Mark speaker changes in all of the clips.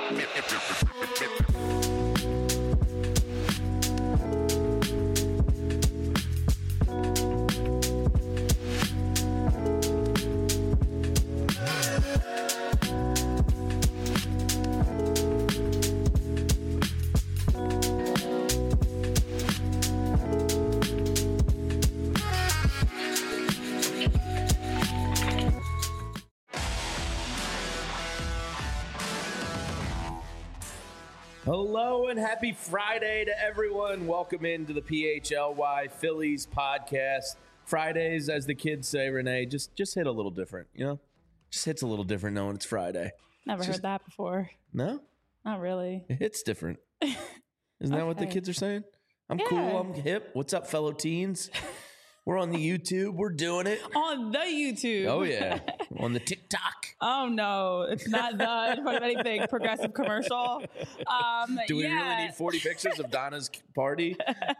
Speaker 1: Hello and happy Friday to everyone. Welcome into the PHLY Phillies podcast. Fridays, as the kids say, Renee, just hit a little different, you know? Just hits a little different knowing it's Friday.
Speaker 2: Never heard that before.
Speaker 1: No?
Speaker 2: Not really.
Speaker 1: It hits different. Isn't that what the kids are saying? I'm cool. I'm hip. What's up, fellow teens? We're on the YouTube. We're doing it.
Speaker 2: On the YouTube.
Speaker 1: Oh, yeah. On the TikTok.
Speaker 2: Oh, no. It's not the in front of anything progressive commercial.
Speaker 1: Do we really need 40 pictures of Donna's party?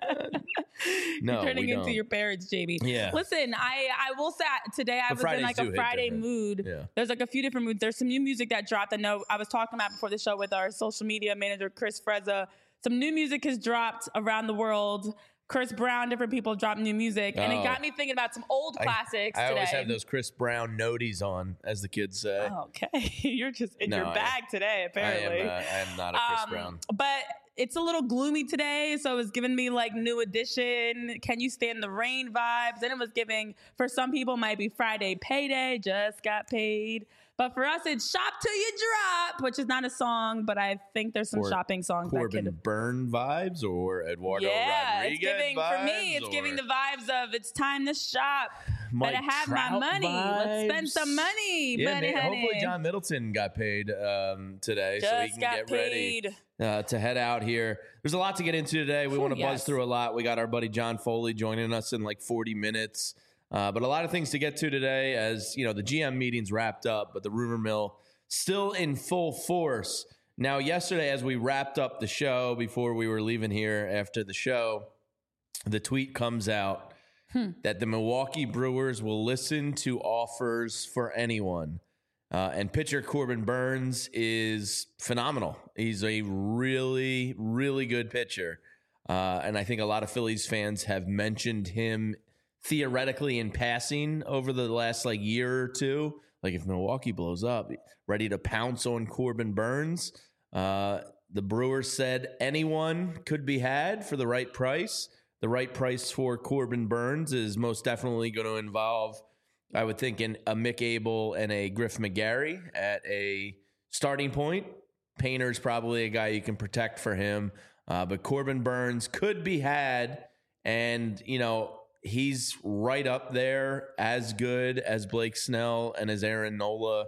Speaker 1: No,
Speaker 2: You're turning into your parents, JB.
Speaker 1: Yeah.
Speaker 2: Listen, I will say today I was in like a Friday mood.
Speaker 1: Yeah.
Speaker 2: There's like a few different moods. There's some new music that dropped. I know I was talking about before the show with our social media manager, Chris Frezza. Some new music has dropped around the world. Chris Brown, different people dropped new music. And it got me thinking about some old classics
Speaker 1: I
Speaker 2: today.
Speaker 1: always have those Chris Brown noties on, as the kids say.
Speaker 2: Okay. You're just in your bag today, apparently.
Speaker 1: I am not a Chris Brown.
Speaker 2: But it's a little gloomy today, so it was giving me like New Edition, Can You Stand the Rain vibes. Then it was giving, for some people, might be Friday Payday, just got paid. But for us, it's Shop Till You Drop, which is not a song, but I think there's some shopping songs.
Speaker 1: Corbin Byrne vibes or Eduardo Rodriguez
Speaker 2: it's giving,
Speaker 1: vibes?
Speaker 2: For me, it's giving the vibes of it's time to shop.
Speaker 1: Mike
Speaker 2: Better have
Speaker 1: Trout
Speaker 2: my money.
Speaker 1: Vibes.
Speaker 2: Let's spend some money.
Speaker 1: Yeah,
Speaker 2: honey.
Speaker 1: hopefully John Middleton got paid today so he can get ready to head out here. There's a lot to get into today. We want to buzz through a lot. We got our buddy John Foley joining us in like 40 minutes. But a lot of things to get to today as, you know, the GM meeting's wrapped up, but the rumor mill still in full force. Now, yesterday, as we wrapped up the show, before we were leaving here after the show, the tweet comes out that the Milwaukee Brewers will listen to offers for anyone. And pitcher Corbin Burnes is phenomenal. He's a really, really good pitcher. And I think a lot of Phillies fans have mentioned him theoretically in passing over the last like year or two. Like if Milwaukee blows up, ready to pounce on Corbin Burnes. The Brewers said anyone could be had for the right price. The right price for Corbin Burnes is most definitely going to involve, I would think, a Mick Abel and a Griff McGarry at a starting point. Painter's probably a guy you can protect for him. But Corbin Burnes could be had. And, you know, he's right up there, as good as Blake Snell and as Aaron Nola.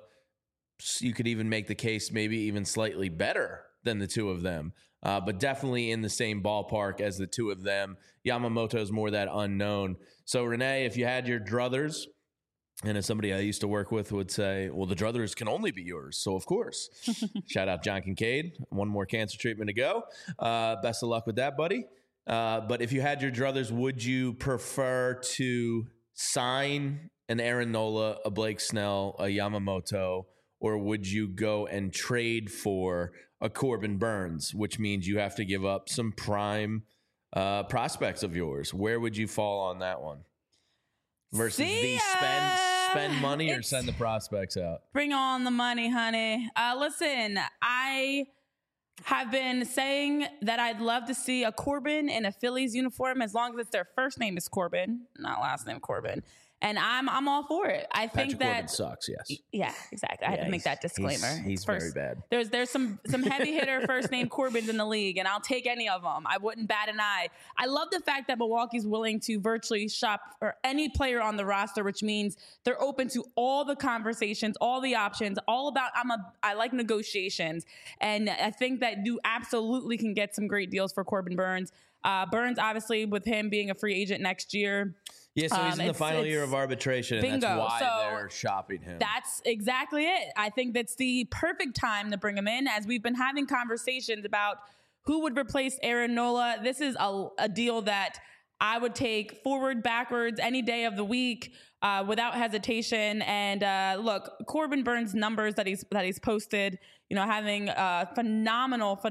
Speaker 1: You could even make the case maybe even slightly better than the two of them, but definitely in the same ballpark as the two of them. Yamamoto is more that unknown. So, Renee, if you had your druthers, and as somebody I used to work with would say, well, the druthers can only be yours. So, of course, shout out John Kincaid. One more cancer treatment to go. Best of luck with that, buddy. But if you had your druthers, would you prefer to sign an Aaron Nola, a Blake Snell, a Yamamoto, or would you go and trade for a Corbin Burnes, which means you have to give up some prime prospects of yours? Where would you fall on that one? Versus spend money or send the prospects out?
Speaker 2: Bring on the money, honey. Listen, I have been saying that I'd love to see a Corbin in a Phillies uniform as long as it's their first name is Corbin, not last name Corbin. And I'm all for it. I think
Speaker 1: Patrick Corbin sucks, yes.
Speaker 2: Yeah, exactly. I had to make that disclaimer.
Speaker 1: He's very bad.
Speaker 2: There's some heavy hitter first name Corbins in the league, and I'll take any of them. I wouldn't bat an eye. I love the fact that Milwaukee's willing to virtually shop for any player on the roster, which means they're open to all the conversations, all the options, all about I like negotiations. And I think that you absolutely can get some great deals for Corbin Burnes. Burnes, obviously, with him being a free agent next year.
Speaker 1: Yeah, so he's in the final year of arbitration, and
Speaker 2: bingo.
Speaker 1: That's why they're shopping him.
Speaker 2: That's exactly it. I think that's the perfect time to bring him in, as we've been having conversations about who would replace Aaron Nola. This is a deal that I would take forward, backwards, any day of the week without hesitation. And look, Corbin Burns' numbers that he's posted, having phenomenal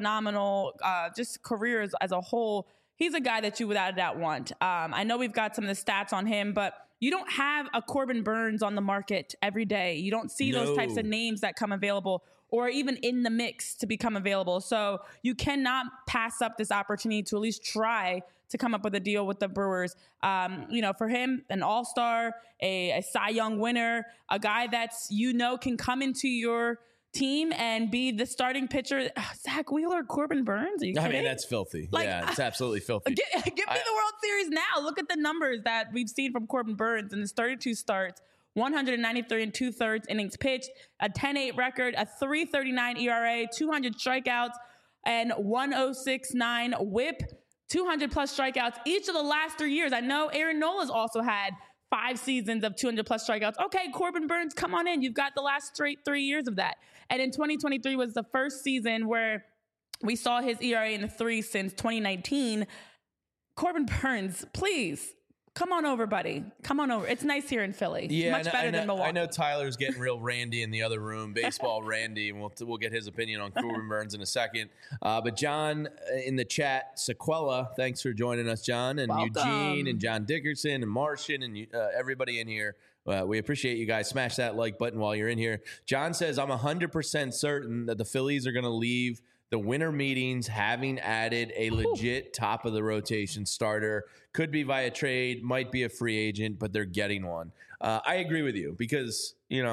Speaker 2: just careers as a whole. He's a guy that you without a doubt want. I know we've got some of the stats on him, but you don't have a Corbin Burns on the market every day. You don't see those types of names that come available or even in the mix to become available. So you cannot pass up this opportunity to at least try to come up with a deal with the Brewers. For him, an all-star, a Cy Young winner, a guy that's, can come into your team and be the starting pitcher. Zach Wheeler, Corbin Burns? Are you kidding?
Speaker 1: I mean, that's filthy. It's absolutely filthy.
Speaker 2: Give me the World Series now. Look at the numbers that we've seen from Corbin Burns in his 32 starts, 193 and 2/3 innings pitched, a 10-8 record, a 3.39 ERA, 200 strikeouts, and 1.069 WHIP, 200 plus strikeouts each of the last 3 years. I know Aaron Nola's also had 5 seasons of 200 plus strikeouts. Okay, Corbin Burns, come on in. You've got the last straight 3 years of that. And in 2023 was the first season where we saw his ERA in the 3 since 2019. Corbin Burns, please, come on over, buddy. Come on over. It's nice here in Philly.
Speaker 1: Yeah,
Speaker 2: much better than Milwaukee.
Speaker 1: I know Tyler's getting real randy in the other room, baseball randy, and we'll get his opinion on Corbin Burns in a second. But John in the chat, Sequela, thanks for joining us, John, and
Speaker 2: welcome.
Speaker 1: Eugene and John Dickerson and Martian and everybody in here. We appreciate you guys. Smash that like button while you're in here. John says, I'm 100% certain that the Phillies are going to leave the winter meetings having added a legit top of the rotation starter. Could be via trade, might be a free agent, but they're getting one. I agree with you because,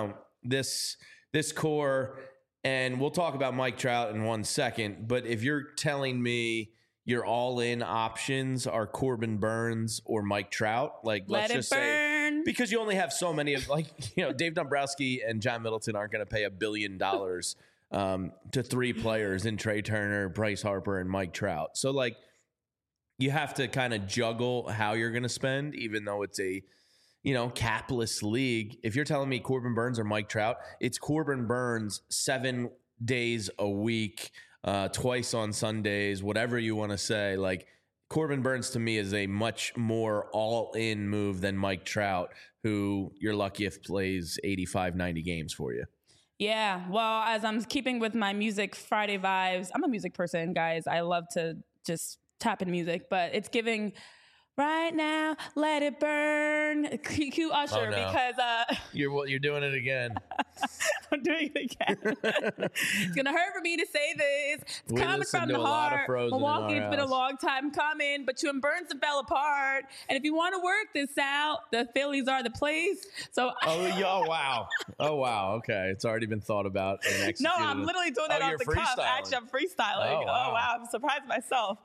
Speaker 1: this core, and we'll talk about Mike Trout in 1 second, but if you're telling me your all-in options are Corbin Burns or Mike Trout, let's just say, because you only have so many of, Dave Dombrowski and John Middleton aren't going to pay $1 billion to 3 players in Trey Turner, Bryce Harper, and Mike Trout. So, you have to kind of juggle how you're going to spend, even though it's a, capless league. If you're telling me Corbin Burns or Mike Trout, it's Corbin Burns 7 days a week, twice on Sundays, whatever you want to say. Corbin Burns to me is a much more all-in move than Mike Trout, who you're lucky if plays 85, 90 games for you.
Speaker 2: Yeah, well, as I'm keeping with my Music Friday vibes, I'm a music person, guys. I love to just tap in music, but it's giving right now, let it burn. Cue Usher, because
Speaker 1: you're doing it again.
Speaker 2: I'm doing it again. It's gonna hurt for me to say this. It's coming from the heart. Milwaukee, it's been a long time coming, but you and Burns fell apart. And if you want to work this out, the Phillies are the place. So
Speaker 1: wow. Okay, it's already been thought about and executed.
Speaker 2: No, I'm literally doing that off the cuff. Actually, I'm freestyling. Oh wow, I'm surprised myself.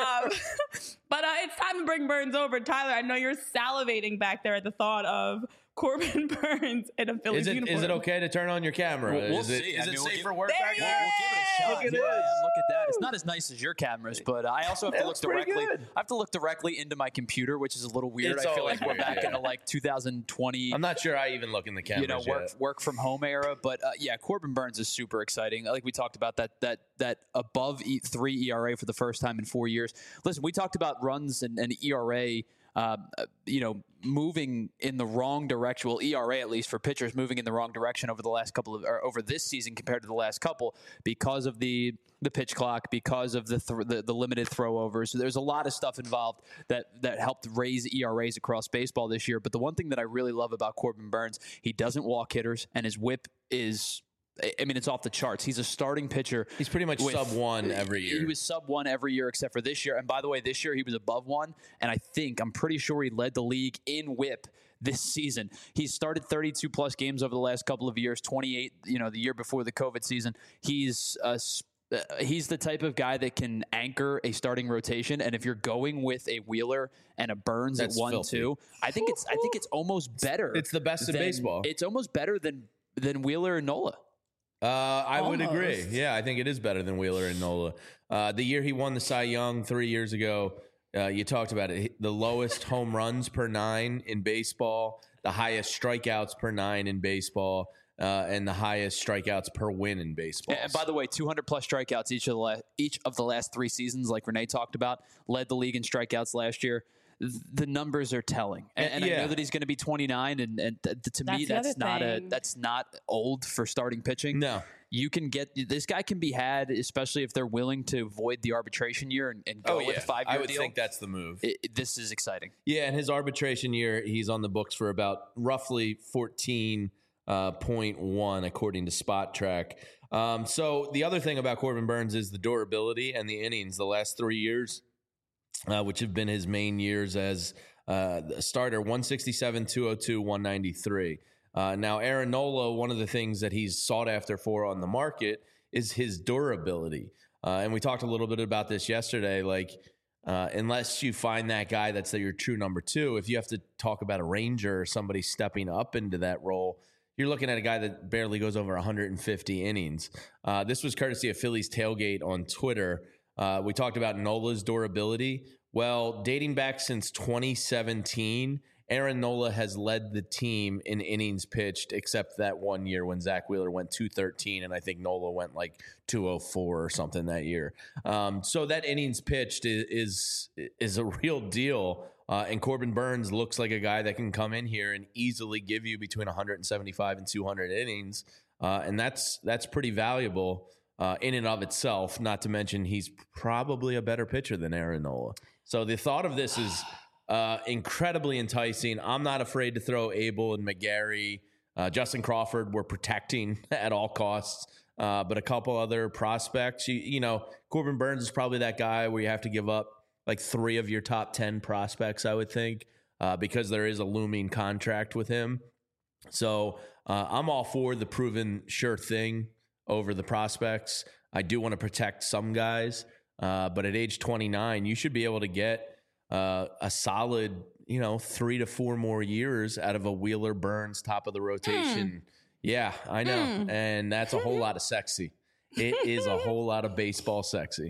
Speaker 2: But it's time to bring Burns over. Tyler, I know you're salivating back there at the thought of Corbin Burns in a Phillies uniform.
Speaker 1: Is it okay to turn on your camera?
Speaker 3: We'll see.
Speaker 1: Is it safe for work
Speaker 2: back
Speaker 1: there?
Speaker 3: We'll give it a shot.
Speaker 1: Look at this.
Speaker 3: Look at that. It's not as nice as your cameras, but I also have to look directly. I have to look directly into my computer, which is a little weird. I feel like we're back into 2020.
Speaker 1: I'm not sure I even look in the cameras.
Speaker 3: Work from home era. But Corbin Burns is super exciting. Like we talked about that above 3 ERA for the first time in 4 years. Listen, we talked about runs and ERA. Moving in the wrong direction. Well, ERA at least for pitchers moving in the wrong direction over the last over this season compared to the last couple because of the pitch clock, because of the limited throwovers. So there's a lot of stuff involved that helped raise ERAs across baseball this year. But the one thing that I really love about Corbin Burns, he doesn't walk hitters, and his whip is. I mean, it's off the charts. He's a starting pitcher.
Speaker 1: He's pretty much sub-1 every year.
Speaker 3: He was sub-1 every year except for this year. And by the way, this year he was above 1. And I'm pretty sure he led the league in whip this season. He's started 32-plus games over the last couple of years, 28, the year before the COVID season. He's the type of guy that can anchor a starting rotation. And if you're going with a Wheeler and a Burns at 1-2, I think it's almost better.
Speaker 1: It's the best in baseball.
Speaker 3: It's almost better than Wheeler and Nola.
Speaker 1: I would agree. Yeah, I think it is better than Wheeler and Nola. The year he won the Cy Young 3 years ago, you talked about it. The lowest home runs per 9 in baseball, the highest strikeouts per 9 in baseball, and the highest strikeouts per win in baseball.
Speaker 3: And by the way, 200-plus strikeouts each of the last 3 seasons, like Renee talked about, led the league in strikeouts last year. the numbers are telling. And I know that he's going to be 29, and to me, that's not old for starting pitching.
Speaker 1: No.
Speaker 3: You can get this guy can be had, especially if they're willing to avoid the arbitration year and go with a 5-year deal.
Speaker 1: I would think that's the move.
Speaker 3: This is exciting.
Speaker 1: Yeah, and his arbitration year, he's on the books for about roughly 14.1 according to Spot Track. So the other thing about Corbin Burnes is the durability and the innings. The last 3 years, which have been his main years as a starter, 167, 202, 193. Now, Aaron Nola, one of the things that he's sought after for on the market is his durability. And we talked a little bit about this yesterday. Like, unless you find that guy that's your true number 2, if you have to talk about a Ranger or somebody stepping up into that role, you're looking at a guy that barely goes over 150 innings. This was courtesy of Phillies Tailgate on Twitter. We talked about Nola's durability. Well, dating back since 2017, Aaron Nola has led the team in innings pitched, except that 1 year when Zach Wheeler went 213, and I think Nola went like 204 or something that year. So that innings pitched is a real deal. And Corbin Burnes looks like a guy that can come in here and easily give you between 175 and 200 innings, and that's pretty valuable in and of itself. Not to mention he's probably a better pitcher than Aaron Nola. So the thought of this is incredibly enticing. I'm not afraid to throw Abel and McGarry. Justin Crawford we're protecting at all costs. But a couple other prospects, you know, Corbin Burnes is probably that guy where you have to give up like 3 of your top 10 prospects, I would think, because there is a looming contract with him. So I'm all for the proven sure thing over the prospects. I do want to protect some guys, but at age 29, you should be able to get a solid, 3 to 4 more years out of a Wheeler Burnes top of the rotation. Yeah, I know. And that's a whole lot of sexy. It is a whole lot of baseball sexy.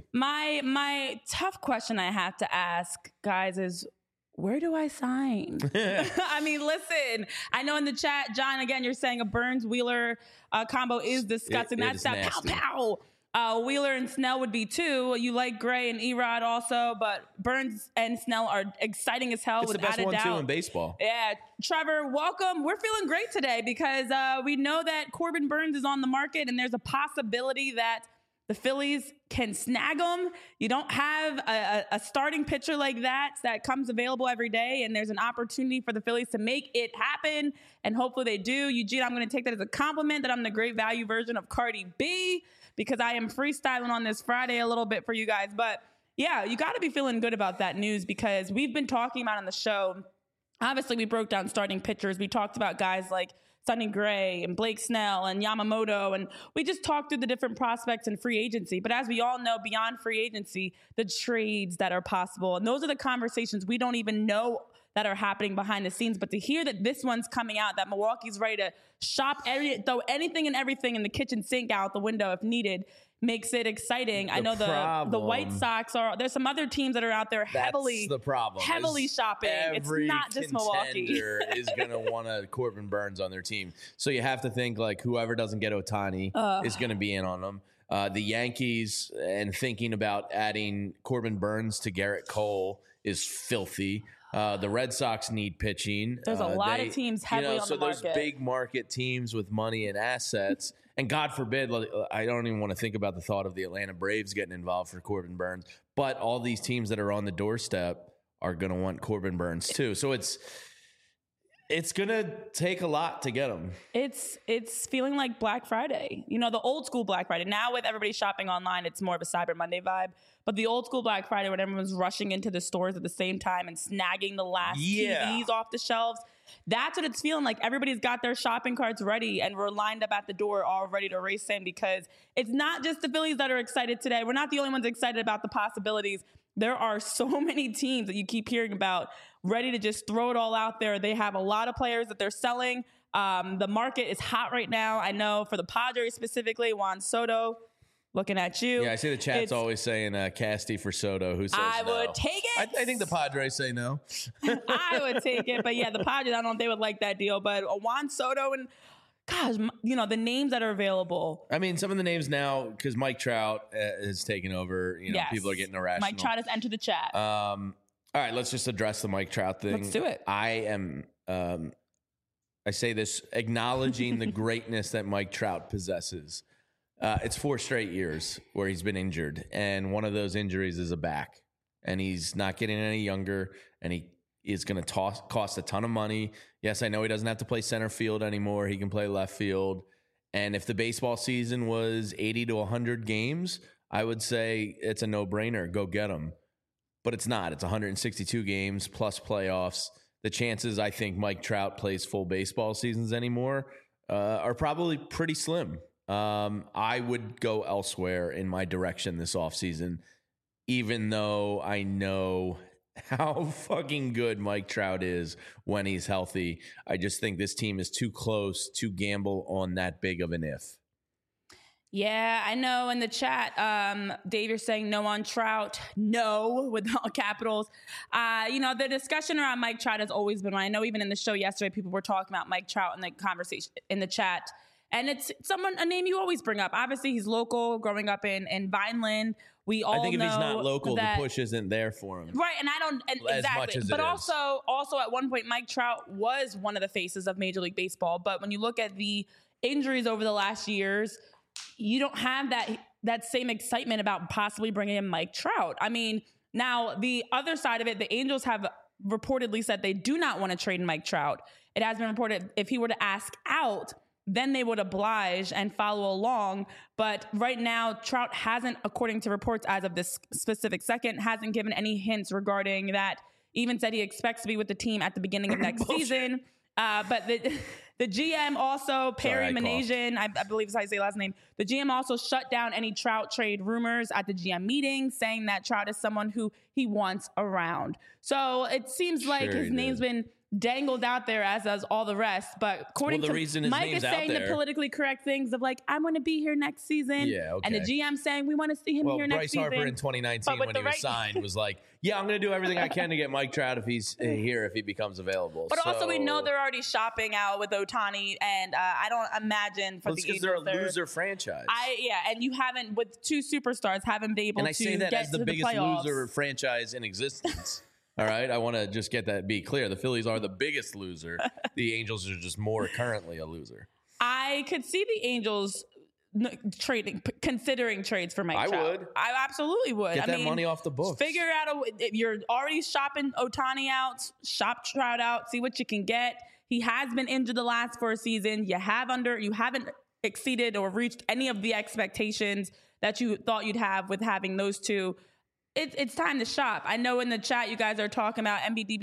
Speaker 2: My tough question I have to ask, guys, is where do I sign? I mean, listen, I know in the chat, John, again, you're saying a Burnes-Wheeler combo is disgusting. That's that pow-pow. Wheeler and Snell would be 2. You like Gray and Erod also, but Burnes and Snell are exciting as hell.
Speaker 1: It's
Speaker 2: without
Speaker 1: the best
Speaker 2: a doubt.
Speaker 1: 1-2 in baseball.
Speaker 2: Yeah, Trevor, welcome. We're feeling great today because we know that Corbin Burnes is on the market, and there's a possibility that the Phillies can snag him. You don't have a starting pitcher like that comes available every day, and there's an opportunity for the Phillies to make it happen, and hopefully they do. Eugene, I'm going to take that as a compliment that I'm the great value version of Cardi B, because I am freestyling on this Friday a little bit for you guys. But yeah, you got to be feeling good about that news because we've been talking about on the show. Obviously, we broke down starting pitchers. We talked about guys like Sonny Gray and Blake Snell and Yamamoto, and we just talked through the different prospects in free agency. But as we all know, beyond free agency, the trades that are possible, and those are the conversations we don't even know that are happening behind the scenes. But to hear that this one's coming out, that Milwaukee's ready to throw anything and everything in the kitchen sink out the window if needed, makes it exciting. I know the White Sox there's some other teams that are out there heavily shopping. It's not just Milwaukee.
Speaker 1: Is going to want a Corbin Burnes on their team. So you have to think like whoever doesn't get Ohtani is going to be in on them. The Yankees and thinking about adding Corbin Burnes to Garrett Cole is filthy. The Red Sox need pitching.
Speaker 2: There's a lot of teams heavily on the market.
Speaker 1: So those big market teams with money and assets. And God forbid, I don't even want to think about the thought of the Atlanta Braves getting involved for Corbin Burnes. But all these teams that are on the doorstep are going to want Corbin Burnes too. So it's going to take a lot to get them.
Speaker 2: It's feeling like Black Friday. The old school Black Friday. Now with everybody shopping online, it's more of a Cyber Monday vibe. But the old school Black Friday when everyone's rushing into the stores at the same time and snagging the last TVs off the shelves, that's what it's feeling like. Everybody's got their shopping carts ready and we're lined up at the door all ready to race in because it's not just the Phillies that are excited today. We're not the only ones excited about the possibilities. There are so many teams that you keep hearing about ready to just throw it all out there. They have a lot of players that they're selling. The market is hot right now. I know for the Padres specifically, Juan Soto, looking at you.
Speaker 1: Yeah, I see the chat's always saying Casty for Soto. Who says
Speaker 2: I would take it.
Speaker 1: I think the Padres say no.
Speaker 2: I would take it. But yeah, the Padres, I don't know if they would like that deal. But Juan Soto and, gosh, the names that are available.
Speaker 1: I mean, some of the names now, because Mike Trout has taken over,
Speaker 2: yes.
Speaker 1: People are getting irrational.
Speaker 2: Mike Trout has entered the chat.
Speaker 1: All right, let's just address the Mike Trout thing.
Speaker 2: Let's do it.
Speaker 1: I am, I say this acknowledging the greatness that Mike Trout possesses. It's 4 straight years where he's been injured, and one of those injuries is a back, and he's not getting any younger, and he is going to cost a ton of money. Yes, I know he doesn't have to play center field anymore. He can play left field. And if the baseball season was 80 to 100 games, I would say it's a no-brainer. Go get him. But it's not. It's 162 games plus playoffs. The chances I think Mike Trout plays full baseball seasons anymore are probably pretty slim. I would go elsewhere in my direction this offseason, even though I know how fucking good Mike Trout is when he's healthy. I just think this team is too close to gamble on that big of an if.
Speaker 2: Yeah, I know in the chat, Dave, you're saying no on Trout. No, with all capitals. The discussion around Mike Trout has always been one. I know even in the show yesterday, people were talking about Mike Trout in the conversation in the chat. And it's a name you always bring up. Obviously, he's local, growing up in Vineland. We all know. I think
Speaker 1: if he's not local, the push isn't there for him.
Speaker 2: Right, and I don't exactly. Much as but also at one point, Mike Trout was one of the faces of Major League Baseball. But when you look at the injuries over the last years, you don't have that same excitement about possibly bringing in Mike Trout. I mean, now the other side of it, the Angels have reportedly said they do not want to trade Mike Trout. It has been reported if he were to ask out, then they would oblige and follow along. But right now, Trout hasn't, according to reports as of this specific second, hasn't given any hints regarding that. Even said he expects to be with the team at the beginning of next season. But the GM also, Perry Manasian, I believe is how you say his last name. The GM also shut down any Trout trade rumors at the GM meeting, saying that Trout is someone who he wants around. So it seems like his name's been dangled out there, as does all the rest. But according to Mike is saying the politically correct things of like, I'm going to be here next season.
Speaker 1: Yeah, okay.
Speaker 2: And the GM saying we want to see him here next season.
Speaker 1: Bryce Harper in 2019 when he was signed was like, yeah, I'm going to do everything I can to get Mike Trout if he's here, if he becomes available.
Speaker 2: But also we know they're already shopping out with Ohtani, and I don't imagine for the Angels.
Speaker 1: Because they're a loser franchise.
Speaker 2: And you haven't, with 2 superstars, haven't been able to get to the playoffs. And I say that as the biggest loser
Speaker 1: franchise in existence. All right, I want to just be clear. The Phillies are the biggest loser. The Angels are just more currently a loser.
Speaker 2: I could see the Angels considering trades for Mike Trout.
Speaker 1: I would.
Speaker 2: I absolutely would.
Speaker 1: Get that money off the books.
Speaker 2: Figure out if you're already shopping Ohtani out, shop Trout out, see what you can get. He has been injured the last 4 seasons. You haven't exceeded or reached any of the expectations that you thought you'd have with having those 2. It's time to shop. I know in the chat you guys are talking about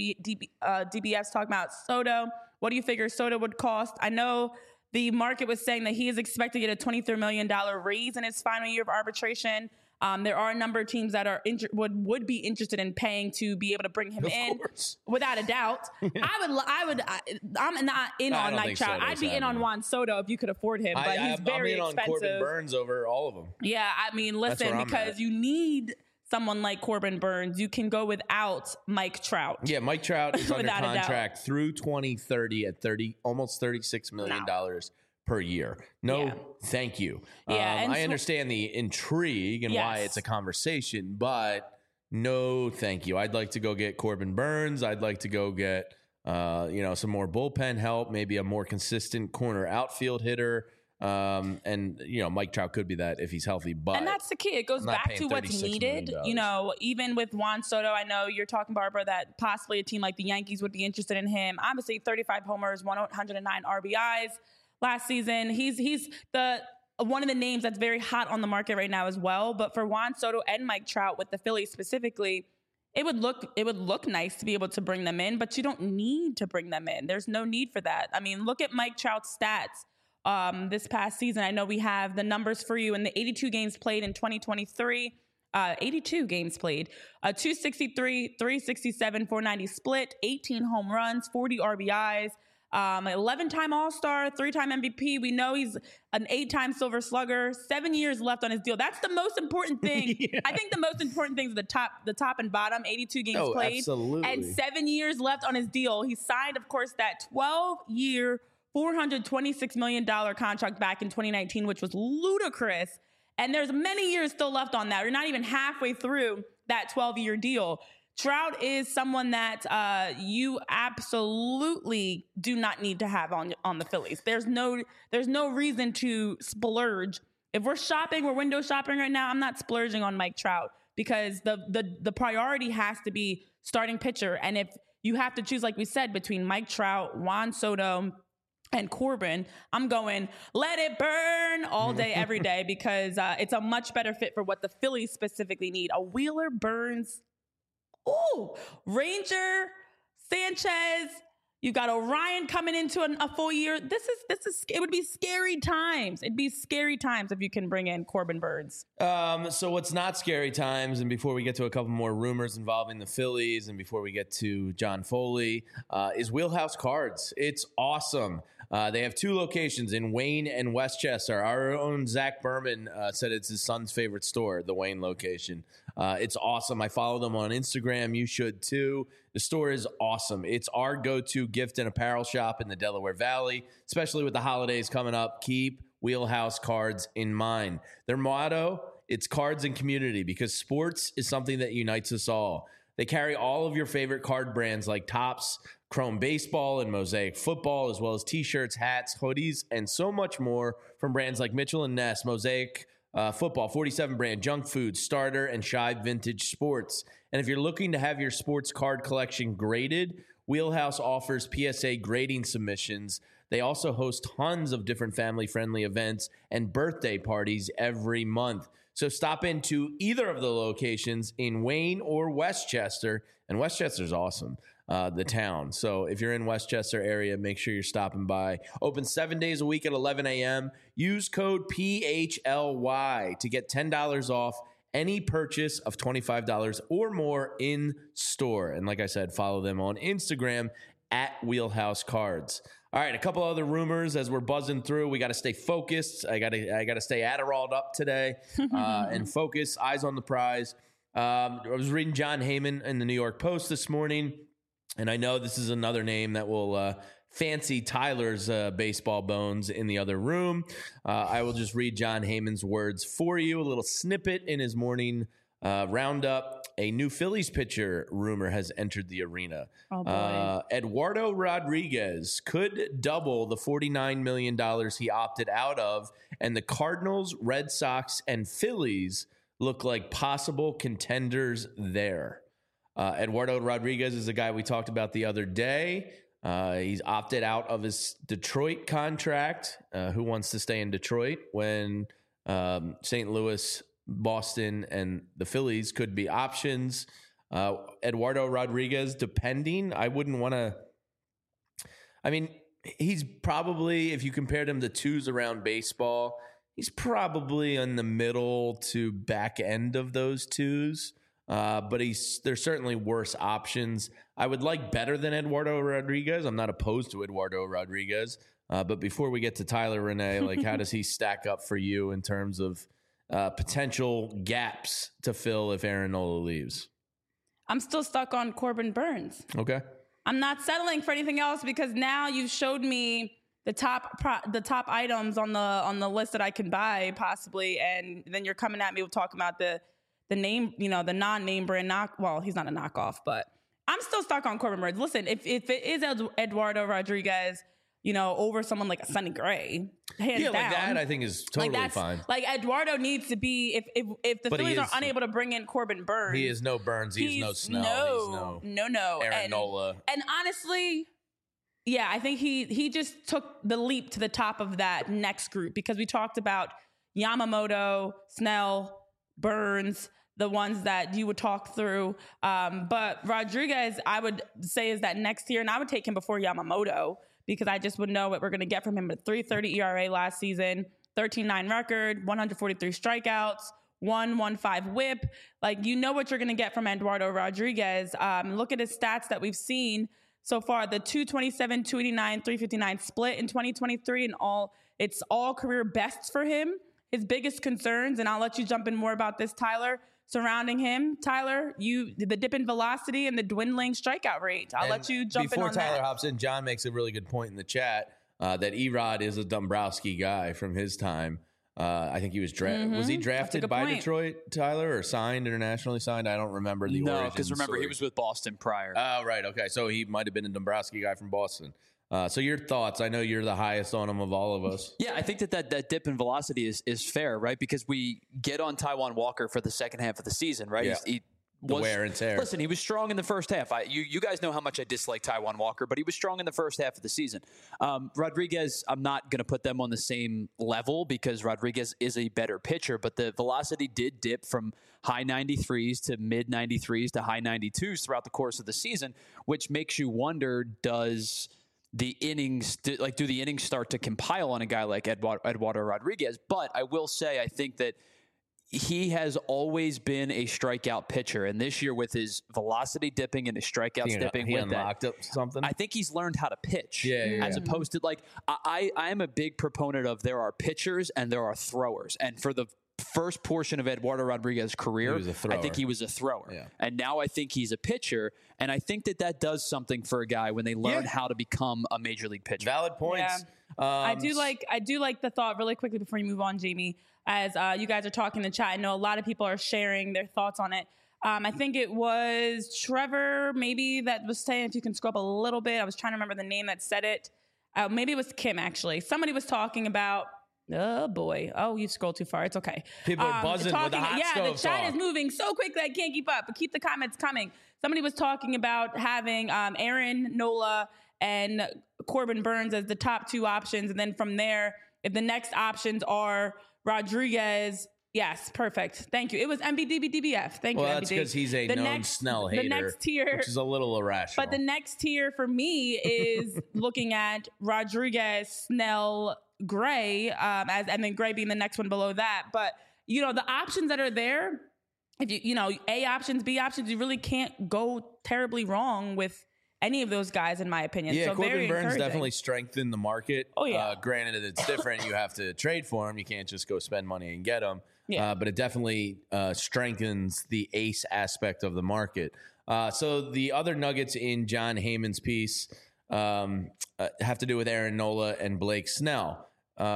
Speaker 2: DBS talking about Soto. What do you figure Soto would cost? I know the market was saying that he is expected to get a $23 million raise in his final year of arbitration. There are a number of teams that are would be interested in paying to be able to bring him in, without a doubt. I'm not in on Mike Trout. I'd be in on Juan Soto if you could afford him, but he's very expensive.
Speaker 1: I'm in on Corbin Burns over all of them.
Speaker 2: Yeah, I mean, listen, because you need someone like Corbin Burns. You can go without Mike Trout.
Speaker 1: Yeah, Mike Trout is under contract through 2030 at almost $36 million per year. Thank you. Yeah, I understand the intrigue and why it's a conversation, but no, thank you. I'd like to go get Corbin Burns. I'd like to go get some more bullpen help, maybe a more consistent corner outfield hitter. Mike Trout could be that if he's healthy, and
Speaker 2: that's the key. It goes back to what's needed. Even with Juan Soto, I know you're talking, Barbara, that possibly a team like the Yankees would be interested in him. Obviously, 35 homers, 109 RBIs last season. He's the one of the names that's very hot on the market right now as well. But for Juan Soto and Mike Trout with the Phillies specifically, it would look nice to be able to bring them in, but you don't need to bring them in. There's no need for that. I mean, look at Mike Trout's stats. This past season, I know we have the numbers for you in the 82 games played in 2023, 82 games played, 263, 367, 490 split, 18 home runs, 40 RBIs, 11-time All-Star, 3-time MVP. We know he's an 8-time Silver Slugger, 7 years left on his deal. That's the most important thing. Yeah. I think the most important thing is the top and bottom, 82 games played,
Speaker 1: absolutely.
Speaker 2: And 7 years left on his deal. He signed, of course, that 12-year $426 million contract back in 2019, which was ludicrous. And there's many years still left on that. We're not even halfway through that 12-year deal. Trout is someone that you absolutely do not need to have on the Phillies. There's no reason to splurge. If we're window shopping right now, I'm not splurging on Mike Trout because the priority has to be starting pitcher. And if you have to choose, like we said, between Mike Trout, Juan Soto, and Corbin, I'm going, let it burn all day, every day, because it's a much better fit for what the Phillies specifically need. A Wheeler, Burns, Ranger, Sanchez. You've got Orion coming into a full year. This is. It would be scary times. It'd be scary times if you can bring in Corbin Burns.
Speaker 1: So what's not scary times, and before we get to a couple more rumors involving the Phillies, and before we get to John Foley, is Wheelhouse Cards. It's awesome. They have 2 locations in Wayne and Westchester. Our own Zach Berman said it's his son's favorite store, the Wayne location. It's awesome. I follow them on Instagram. You should too. The store is awesome. It's our go-to gift and apparel shop in the Delaware Valley, especially with the holidays coming up. Keep Wheelhouse Cards in mind. Their motto, it's cards and community, because sports is something that unites us all. They carry all of your favorite card brands like Topps, Chrome Baseball, and Mosaic Football, as well as t-shirts, hats, hoodies, and so much more from brands like Mitchell & Ness, Mosaic Football, 47 brand, Junk Food, Starter, and Shive Vintage Sports. And if you're looking to have your sports card collection graded, Wheelhouse offers PSA grading submissions. They also host tons of different family-friendly events and birthday parties every month. So stop into either of the locations in Wayne or Westchester. And Westchester's awesome, the town. So if you're in Westchester area, make sure you're stopping by. Open 7 days a week at 11 a.m. Use code PHLY to get $10 off any purchase of $25 or more in store. And like I said, follow them on Instagram at Wheelhouse Cards. All right, a couple other rumors as we're buzzing through. We got to stay focused. I got to stay Adderalled up today and focus, eyes on the prize. I was reading John Heyman in the New York Post this morning, and I know this is another name that will fancy Tyler's baseball bones in the other room. I will just read John Heyman's words for you, a little snippet in his morning roundup. A new Phillies pitcher rumor has entered the arena.
Speaker 2: Oh, boy.
Speaker 1: Eduardo Rodriguez could double the $49 million he opted out of, and the Cardinals, Red Sox, and Phillies look like possible contenders there. Eduardo Rodriguez is a guy we talked about the other day. He's opted out of his Detroit contract. Who wants to stay in Detroit when St. Louis, Boston, and the Phillies could be options? Eduardo Rodriguez, depending, I wouldn't want to. I mean, he's probably, if you compared him to twos around baseball, he's probably in the middle to back end of those twos. But there's certainly worse options. I would like better than Eduardo Rodriguez. I'm not opposed to Eduardo Rodriguez. But before we get to Tyler Renee, like, how does he stack up for you in terms of potential gaps to fill if Aaron Nola leaves?
Speaker 2: I'm still stuck on Corbin Burns.
Speaker 1: Okay.
Speaker 2: I'm not settling for anything else because now you've showed me the top items on the list that I can buy possibly, and then you're coming at me with talking about the name, the non-name brand well, he's not a knockoff, but I'm still stuck on Corbin Burns. Listen, if it is Eduardo Rodriguez, over someone like a Sonny Gray, hands down,
Speaker 1: like that, I think is totally fine.
Speaker 2: Like, Eduardo needs to be, if the Phillies are unable to bring in Corbin Burns.
Speaker 1: He is no Burns. He's no Snell.
Speaker 2: No.
Speaker 1: Aaron Nola.
Speaker 2: And honestly, yeah, I think he just took the leap to the top of that next group, because we talked about Yamamoto, Snell, Burns, the ones that you would talk through. But Rodriguez, I would say, is that next year, and I would take him before Yamamoto, because I just would know what we're going to get from him. At 3.30 ERA last season, 13-9 record, 143 strikeouts, 1.15 whip. Like, you know what you're going to get from Eduardo Rodriguez. Look at his stats that we've seen so far: the 227, 289, 359 split in 2023, and it's all career bests for him. His biggest concerns, and I'll let you jump in more about this, Tyler, surrounding him. Tyler, the dip in velocity and the dwindling strikeout rate. I'll let you jump in on that.
Speaker 1: Before Tyler hops in, John makes a really good point in the chat that Erod is a Dombrowski guy from his time. I think he was was he drafted by Detroit, Tyler, or signed, internationally signed? I don't remember the origin.
Speaker 3: No, because remember, he was with Boston prior.
Speaker 1: Oh, right. Okay. So he might have been a Dombrowski guy from Boston. So your thoughts? I know you're the highest on him of all of us.
Speaker 3: Yeah, I think that dip in velocity is fair, right? Because we get on Taijuan Walker for the second half of the season, right?
Speaker 1: Yeah. The wear and tear.
Speaker 3: Listen, he was strong in the first half. You guys know how much I dislike Taijuan Walker, but he was strong in the first half of the season. Rodriguez, I'm not going to put them on the same level because Rodriguez is a better pitcher, but the velocity did dip from high 93s to mid 93s to high 92s throughout the course of the season, which makes you wonder, do the innings start to compile on a guy like Eduardo Rodriguez? But I will say, I think that he has always been a strikeout pitcher, and this year with his velocity dipping and his strikeouts dipping,
Speaker 1: he unlocked up something.
Speaker 3: I think he's learned how to pitch.
Speaker 1: As
Speaker 3: opposed to I am a big proponent of there are pitchers and there are throwers, and for the first portion of Eduardo Rodriguez's career, I think he was a thrower, and now I think he's a pitcher, and I think that does something for a guy when they learn how to become a major league pitcher.
Speaker 1: Valid points.
Speaker 2: Yeah. I do like the thought really quickly before you move on, Jamie. As you guys are talking in the chat, I know a lot of people are sharing their thoughts on it. I think it was Trevor maybe that was saying, if you can scroll up a little bit, I was trying to remember the name that said it. Maybe it was Kim, actually. Somebody was talking about, oh boy. Oh, you scrolled too far. It's okay.
Speaker 1: People are buzzing with the hot stove
Speaker 2: the chat is moving so quickly I can't keep up, but keep the comments coming. Somebody was talking about having Aaron Nola and Corbin Burnes as the top two options. And then from there, if the next options are Rodriguez, yes, perfect. Thank you. It was MBDBDBF. Thank you,
Speaker 1: Well, that's because he's a known Snell hater,
Speaker 2: the next tier,
Speaker 1: which is a little irrational.
Speaker 2: But the next tier for me is looking at Rodriguez, Snell, Gray, and then Gray being the next one below that. But, the options that are there, if A options, B options, you really can't go terribly wrong with any of those guys, in my opinion.
Speaker 1: Yeah,
Speaker 2: so
Speaker 1: Corbin Burnes definitely strengthened the market.
Speaker 2: Oh, yeah.
Speaker 1: Granted, it's different. You have to trade for him. You can't just go spend money and get him.
Speaker 2: Yeah.
Speaker 1: But it definitely strengthens the ace aspect of the market. So the other nuggets in Jon Heyman's piece have to do with Aaron Nola and Blake Snell.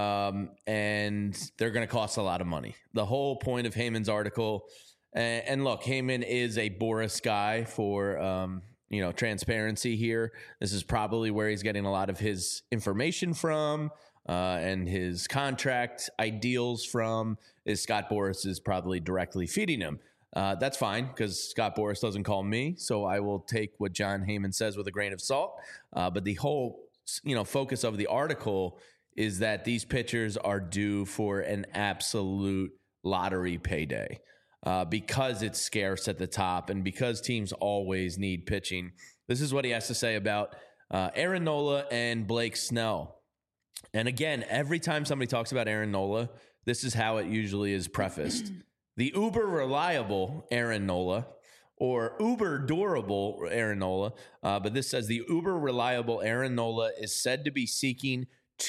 Speaker 1: And they're going to cost a lot of money. The whole point of Heyman's article, and look, Heyman is a Boras guy for transparency here. This is probably where he's getting a lot of his information from, and his contract ideals from. Is Scott Boras is probably directly feeding him. That's fine because Scott Boras doesn't call me, so I will take what Jon Heyman says with a grain of salt. But the whole focus of the article is that these pitchers are due for an absolute lottery payday. Because it's scarce at the top and because teams always need pitching. This is what he has to say about Aaron Nola and Blake Snell. And again, every time somebody talks about Aaron Nola, this is how it usually is prefaced. The uber reliable Aaron Nola or uber durable Aaron Nola. But this says the uber reliable Aaron Nola is said to be seeking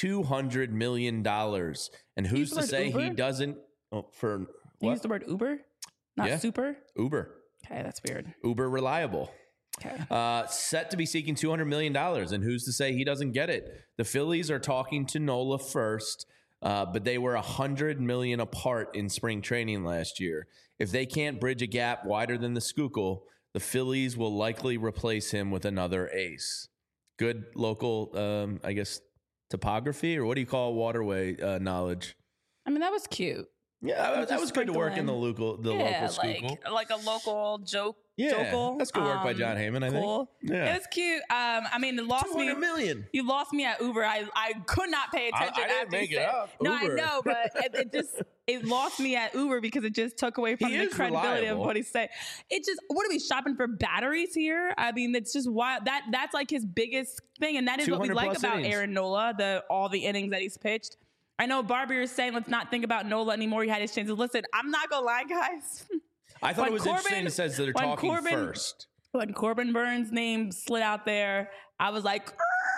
Speaker 1: $200 million. And who's to say
Speaker 2: Uber?
Speaker 1: He doesn't for
Speaker 2: You use the word Uber? Not super?
Speaker 1: Uber.
Speaker 2: Okay, that's weird.
Speaker 1: Uber reliable.
Speaker 2: Okay.
Speaker 1: Set to be seeking $200 million. And who's to say he doesn't get it? The Phillies are talking to Nola first, but they were $100 million apart in spring training last year. If they can't bridge a gap wider than the Schuylkill, the Phillies will likely replace him with another ace. Good local, topography, or what do you call waterway knowledge?
Speaker 2: I mean, that was cute.
Speaker 1: Yeah, that was good to work in the local Schuylkill.
Speaker 2: Like a local joke.
Speaker 1: Yeah, that's good work by Jon Heyman, I think.
Speaker 2: Yeah. It was cute. It lost me.
Speaker 1: $200 million.
Speaker 2: You lost me at Uber. I could not pay attention.
Speaker 1: I didn't make it up.
Speaker 2: No,
Speaker 1: Uber.
Speaker 2: I know, but it lost me at Uber because it just took away from the credibility of what he's saying. It just, what are we shopping for batteries here? I mean, it's just wild. That's like his biggest thing, and that is what we like about innings. Aaron Nola, all the innings that he's pitched. I know Barbie is saying, let's not think about Nola anymore. He had his chances. Listen, I'm not going to lie, guys.
Speaker 1: I thought it was interesting it says that they're talking first.
Speaker 2: When Corbin Burnes' name slid out there, I was like,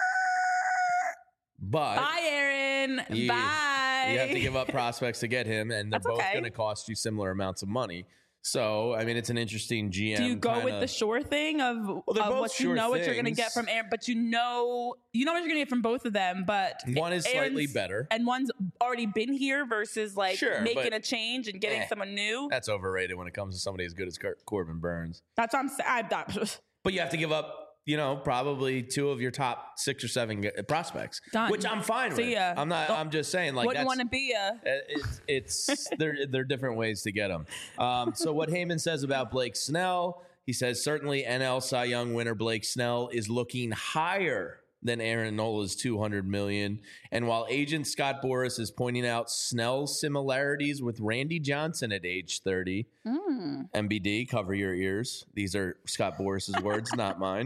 Speaker 1: but
Speaker 2: bye, Aaron. Bye.
Speaker 1: You have to give up prospects to get him, and they're both going to cost you similar amounts of money. So, I mean, it's an interesting GM.
Speaker 2: Do you go with the sure thing of what you know what you're going to get from Aaron, but you know what you're going to get from both of them, but
Speaker 1: one is slightly better.
Speaker 2: And one's already been here versus making a change and getting someone new.
Speaker 1: That's overrated when it comes to somebody as good as Corbin Burnes.
Speaker 2: That's what I'm saying.
Speaker 1: But you have to give up, probably 2 of your top 6 or 7 prospects, which I'm fine with. I'm just saying,
Speaker 2: wouldn't want to be
Speaker 1: they're different ways to get them. So what Heyman says about Blake Snell, he says certainly NL Cy Young winner Blake Snell is looking higher than Aaron Nola's $200 million. And while agent Scott Boras is pointing out Snell's similarities with Randy Johnson at age 30, MBD, cover your ears. These are Scott Boras's words, not mine.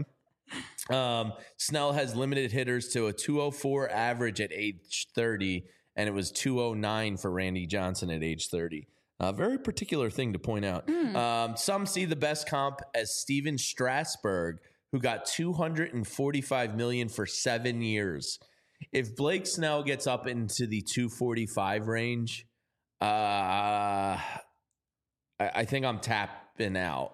Speaker 1: Snell has limited hitters to a 204 average at age 30, and it was 209 for Randy Johnson at age 30. A very particular thing to point out. Some see the best comp as Steven Strasburg, who got $245 million for 7 years. If Blake Snell gets up into the 245 range, I think I'm tapping out.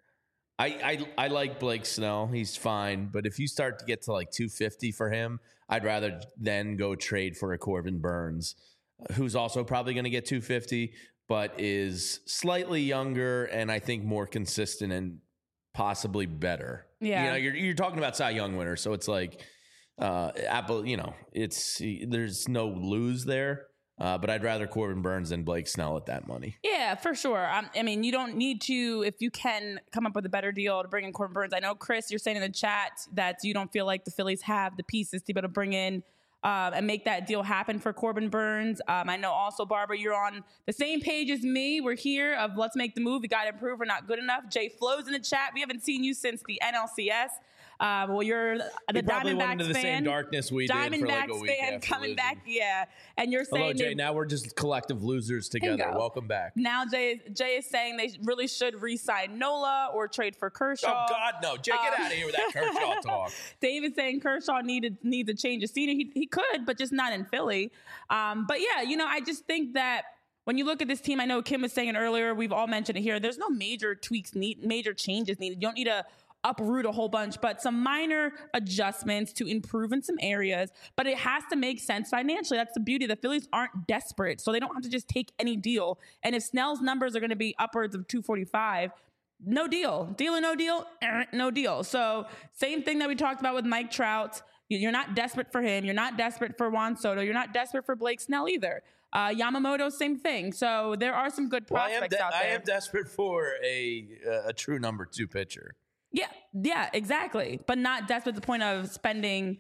Speaker 1: I like Blake Snell. He's fine. But if you start to get to like 250 for him, I'd rather then go trade for a Corbin Burnes, who's also probably going to get 250, but is slightly younger and I think more consistent and possibly better.
Speaker 2: Yeah.
Speaker 1: You're talking about Cy Young winner, so it's like Apple, there's no lose there. But I'd rather Corbin Burnes than Blake Snell at that money.
Speaker 2: Yeah, for sure. I mean, you don't need to, if you can come up with a better deal to bring in Corbin Burnes. I know, Chris, you're saying in the chat that you don't feel like the Phillies have the pieces to be able to bring in and make that deal happen for Corbin Burnes. I know also, Barbara, you're on the same page as me. We're here of let's make the move. We got to improve. We're not good enough. Jay Flo's in the chat. We haven't seen you since the NLCS. Well, you're the Diamondbacks fan.
Speaker 1: The same darkness we did for like a week
Speaker 2: fan coming back, yeah. And you're saying,
Speaker 1: hello, Jay. Now we're just collective losers together.
Speaker 2: Bingo.
Speaker 1: Welcome back.
Speaker 2: Now Jay is saying they really should re-sign Nola or trade for Kershaw.
Speaker 1: Oh God, no! Jay, get out of here with that Kershaw talk.
Speaker 2: David's saying Kershaw needs a change of scenery. He could, but just not in Philly. But yeah, I just think that when you look at this team, I know Kim was saying it earlier. We've all mentioned it here. There's no major tweaks major changes needed. You don't need to uproot a whole bunch, but some minor adjustments to improve in some areas. But it has to make sense financially. That's the beauty. The Phillies aren't desperate, so they don't have to just take any deal. And if Snell's numbers are going to be upwards of 245, no deal. Deal or no deal? No deal. So same thing that we talked about with Mike Trout. You're not desperate for him. You're not desperate for Juan Soto. You're not desperate for Blake Snell either. Yamamoto, same thing. So there are some good prospects out there.
Speaker 1: I am desperate for a true number 2 pitcher.
Speaker 2: Yeah, exactly. But not desperate to the point of spending.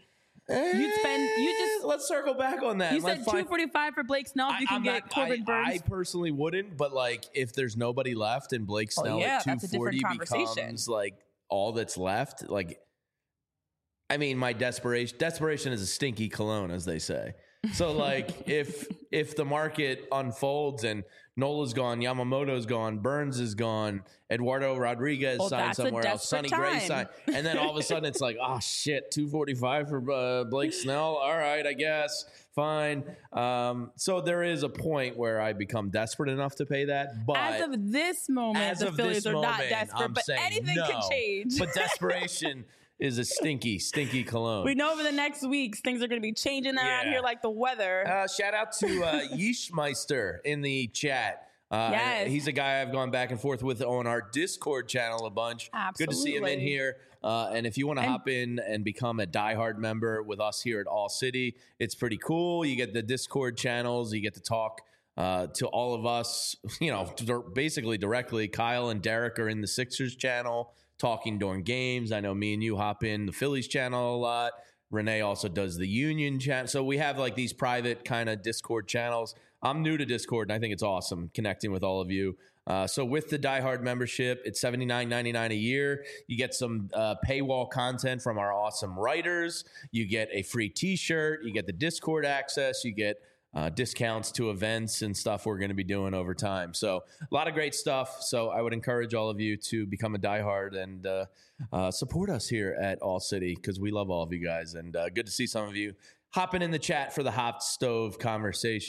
Speaker 1: Let's circle back on that.
Speaker 2: You said 245 for Blake Snell. If you can get Corbin Burnes.
Speaker 1: I personally wouldn't, but like if there's nobody left and Blake Snell at 240 becomes like all that's left, like I mean, my desperation is a stinky cologne, as they say. So like if the market unfolds and Nola's gone, Yamamoto's gone, Burnes is gone, Eduardo Rodriguez signed somewhere else, Sonny Gray signed, and then all of a sudden it's like, oh shit, 245 for Blake Snell. All right, I guess fine. So there is a point where I become desperate enough to pay that. But
Speaker 2: as of this moment, the Phillies are not desperate, but anything can change.
Speaker 1: But desperation is a stinky, stinky cologne.
Speaker 2: We know over the next weeks, things are going to be changing around here like the weather.
Speaker 1: Shout out to Yeeshmeister in the chat.
Speaker 2: Yes.
Speaker 1: He's a guy I've gone back and forth with on our Discord channel a bunch.
Speaker 2: Absolutely.
Speaker 1: Good to see him in here. And if you want to hop in and become a diehard member with us here at All City, it's pretty cool. You get the Discord channels. You get to talk to all of us, basically directly. Kyle and Derek are in the Sixers channel talking during games. I know me and you hop in the Phillies channel a lot. Renee also does the Union channel. So we have like these private kind of Discord channels. I'm new to Discord, and I think it's awesome connecting with all of you. So with the diehard membership, it's $79.99 a year. You get some paywall content from our awesome writers. You get a free T-shirt. You get the Discord access. You get discounts to events and stuff we're going to be doing over time. So a lot of great stuff. So I would encourage all of you to become a diehard and support us here at All City because we love all of you guys. And good to see some of you hopping in the chat for the hot stove conversation.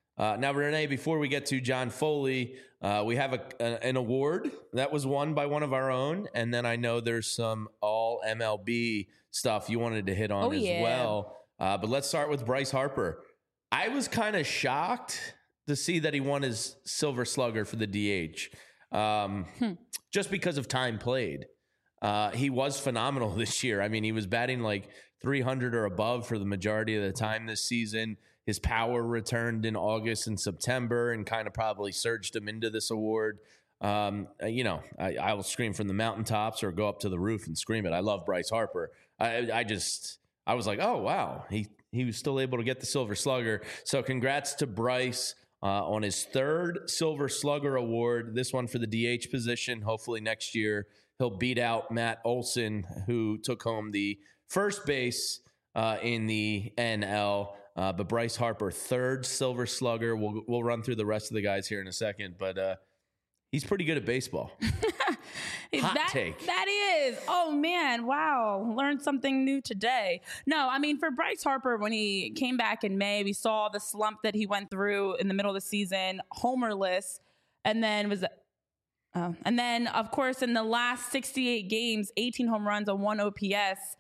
Speaker 1: Now, Renee, before we get to John Foley, we have an award that was won by one of our own. And then I know there's some all MLB stuff you wanted to hit on well. But let's start with Bryce Harper. I was kind of shocked to see that he won his Silver Slugger for the DH just because of time played. He was phenomenal this year. I mean, he was batting like 300 or above for the majority of the time this season. His power returned in August and September and kind of probably surged him into this award. I will scream from the mountaintops or go up to the roof and scream it. I love Bryce Harper. I was like, oh, wow. He was still able to get the Silver Slugger. So congrats to Bryce on his third Silver Slugger award, this one for the DH position. Hopefully next year he'll beat out Matt Olson, who took home the first base in the NL. But Bryce Harper, third Silver Slugger. We'll run through the rest of the guys here in a second, but he's pretty good at baseball.
Speaker 2: Hot take. That is. Oh, man. Wow. Learned something new today. No, I mean, for Bryce Harper, when he came back in May, we saw the slump that he went through in the middle of the season, homerless, and then of course, in the last 68 games, 18 home runs, a 1 OPS,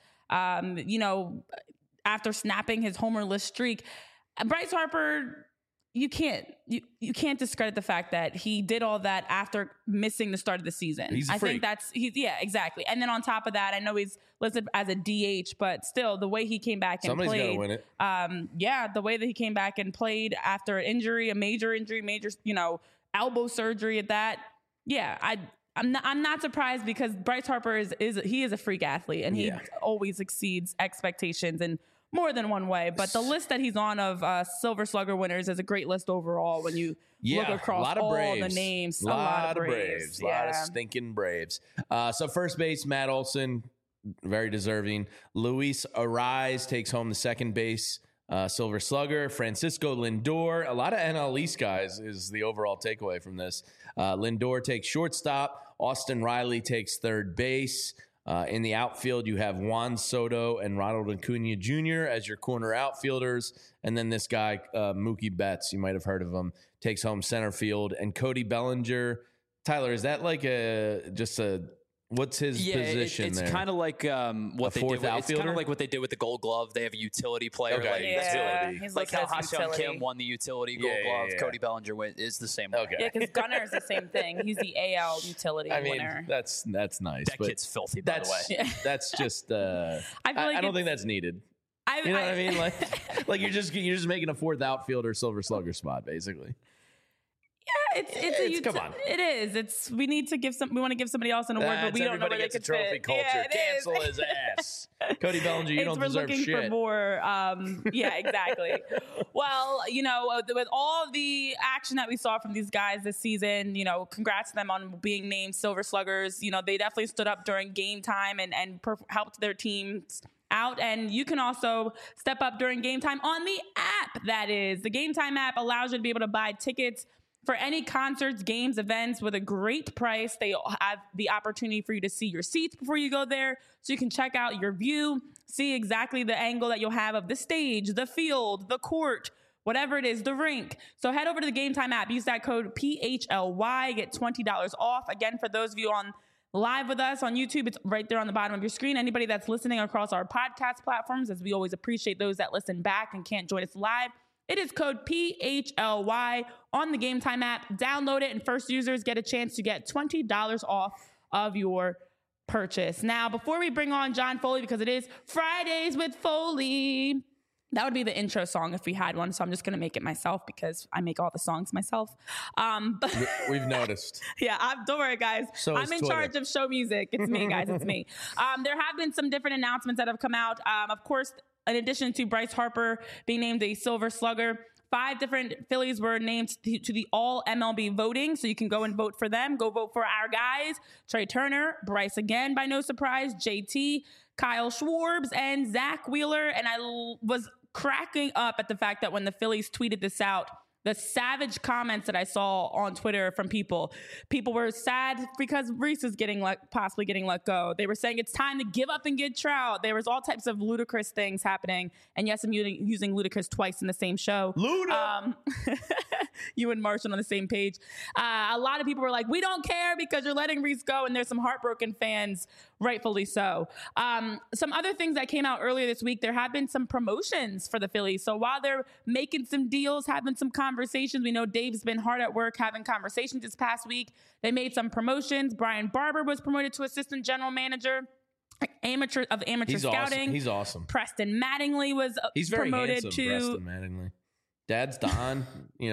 Speaker 2: after snapping his homerless streak. Bryce Harper, you can't discredit the fact that he did all that after missing the start of the season.
Speaker 1: He's a freak.
Speaker 2: Exactly. And then on top of that, I know he's listed as a DH, but still the way he came back and
Speaker 1: somebody's
Speaker 2: played.
Speaker 1: Somebody's got to win
Speaker 2: it. The way that he came back and played after an injury, a major injury, elbow surgery at that. Yeah, I'm not surprised because Bryce Harper is a freak athlete and he always exceeds expectations in more than one way. But the list that he's on of Silver Slugger winners is a great list overall when you look across all the names.
Speaker 1: A lot of Braves. A lot of stinking Braves. So first base, Matt Olson, very deserving. Luis Arraez takes home the second base Silver Slugger. Francisco Lindor, a lot of NL East guys is the overall takeaway from this. Lindor takes shortstop. Austin Riley takes third base. In the outfield, you have Juan Soto and Ronald Acuna Jr. as your corner outfielders. And then this guy, Mookie Betts, you might have heard of him, takes home center field. And Cody Bellinger. Tyler, is that like what's his position
Speaker 3: it's
Speaker 1: there?
Speaker 3: It's kind of like what they did. It's kind of like what they did with the Gold Glove. They have a utility player.
Speaker 1: Okay, utility.
Speaker 3: Like how Ha-Seong Kim won the utility Gold Glove. Yeah. Cody Bellinger is the same.
Speaker 1: Okay.
Speaker 2: Yeah, because Gunnar is the same thing. He's the AL utility winner.
Speaker 1: That's nice.
Speaker 3: That kid's filthy, by the way.
Speaker 1: Yeah. That's just. I don't think that's needed. You know what I mean? Like you're just making a fourth outfielder Silver Slugger spot, basically.
Speaker 2: Yeah, come on. It is. We want to give somebody else an award, but we don't know where they could fit.
Speaker 1: Everybody gets a trophy culture. Cancel his ass. Cody Bellinger, you don't deserve shit.
Speaker 2: We're looking for more. Yeah, exactly. Well, with all the action that we saw from these guys this season, congrats to them on being named Silver Sluggers. They definitely stood up during game time and helped their teams out. And you can also step up during game time on the app. That is, the Game Time app allows you to be able to buy tickets for any concerts, games, events with a great price. They have the opportunity for you to see your seats before you go there, so you can check out your view, see exactly the angle that you'll have of the stage, the field, the court, whatever it is, the rink. So head over to the Game Time app. Use that code PHLY. Get $20 off. Again, for those of you on live with us on YouTube, it's right there on the bottom of your screen. Anybody that's listening across our podcast platforms, as we always appreciate those that listen back and can't join us live, it is code PHLY on the Game Time app. Download it, and first users get a chance to get $20 off of your purchase. Now, before we bring on John Foley, because it is Fridays with Foley, that would be the intro song if we had one. So I'm just going to make it myself because I make all the songs myself. But
Speaker 1: we've noticed.
Speaker 2: Yeah, don't worry, guys. I'm in charge of show music. It's me, guys. It's me. There have been some different announcements that have come out. Of course, in addition to Bryce Harper being named a Silver Slugger, 5 different Phillies were named to the all MLB voting. So you can go and vote for them. Go vote for our guys. Trey Turner, Bryce again, by no surprise, JT, Kyle Schwarber, and Zach Wheeler. And I was cracking up at the fact that when the Phillies tweeted this out, the savage comments that I saw on Twitter from people. People were sad because Reese is possibly getting let go. They were saying it's time to give up and get Trout. There was all types of ludicrous things happening. And yes, I'm using ludicrous twice in the same show.
Speaker 1: Luda!
Speaker 2: You and Marshall on the same page. A lot of people were like, we don't care because you're letting Reese go. And there's some heartbroken fans, rightfully so. Some other things that came out earlier this week, there have been some promotions for the Phillies. So while they're making some deals, having some conversations, we know Dave's been hard at work having conversations this past week. They made some promotions. Brian Barber was promoted to assistant general manager. Amateur
Speaker 1: He's
Speaker 2: scouting.
Speaker 1: Awesome. He's awesome.
Speaker 2: Preston Mattingly was promoted to
Speaker 1: Preston Mattingly. Dad's Don,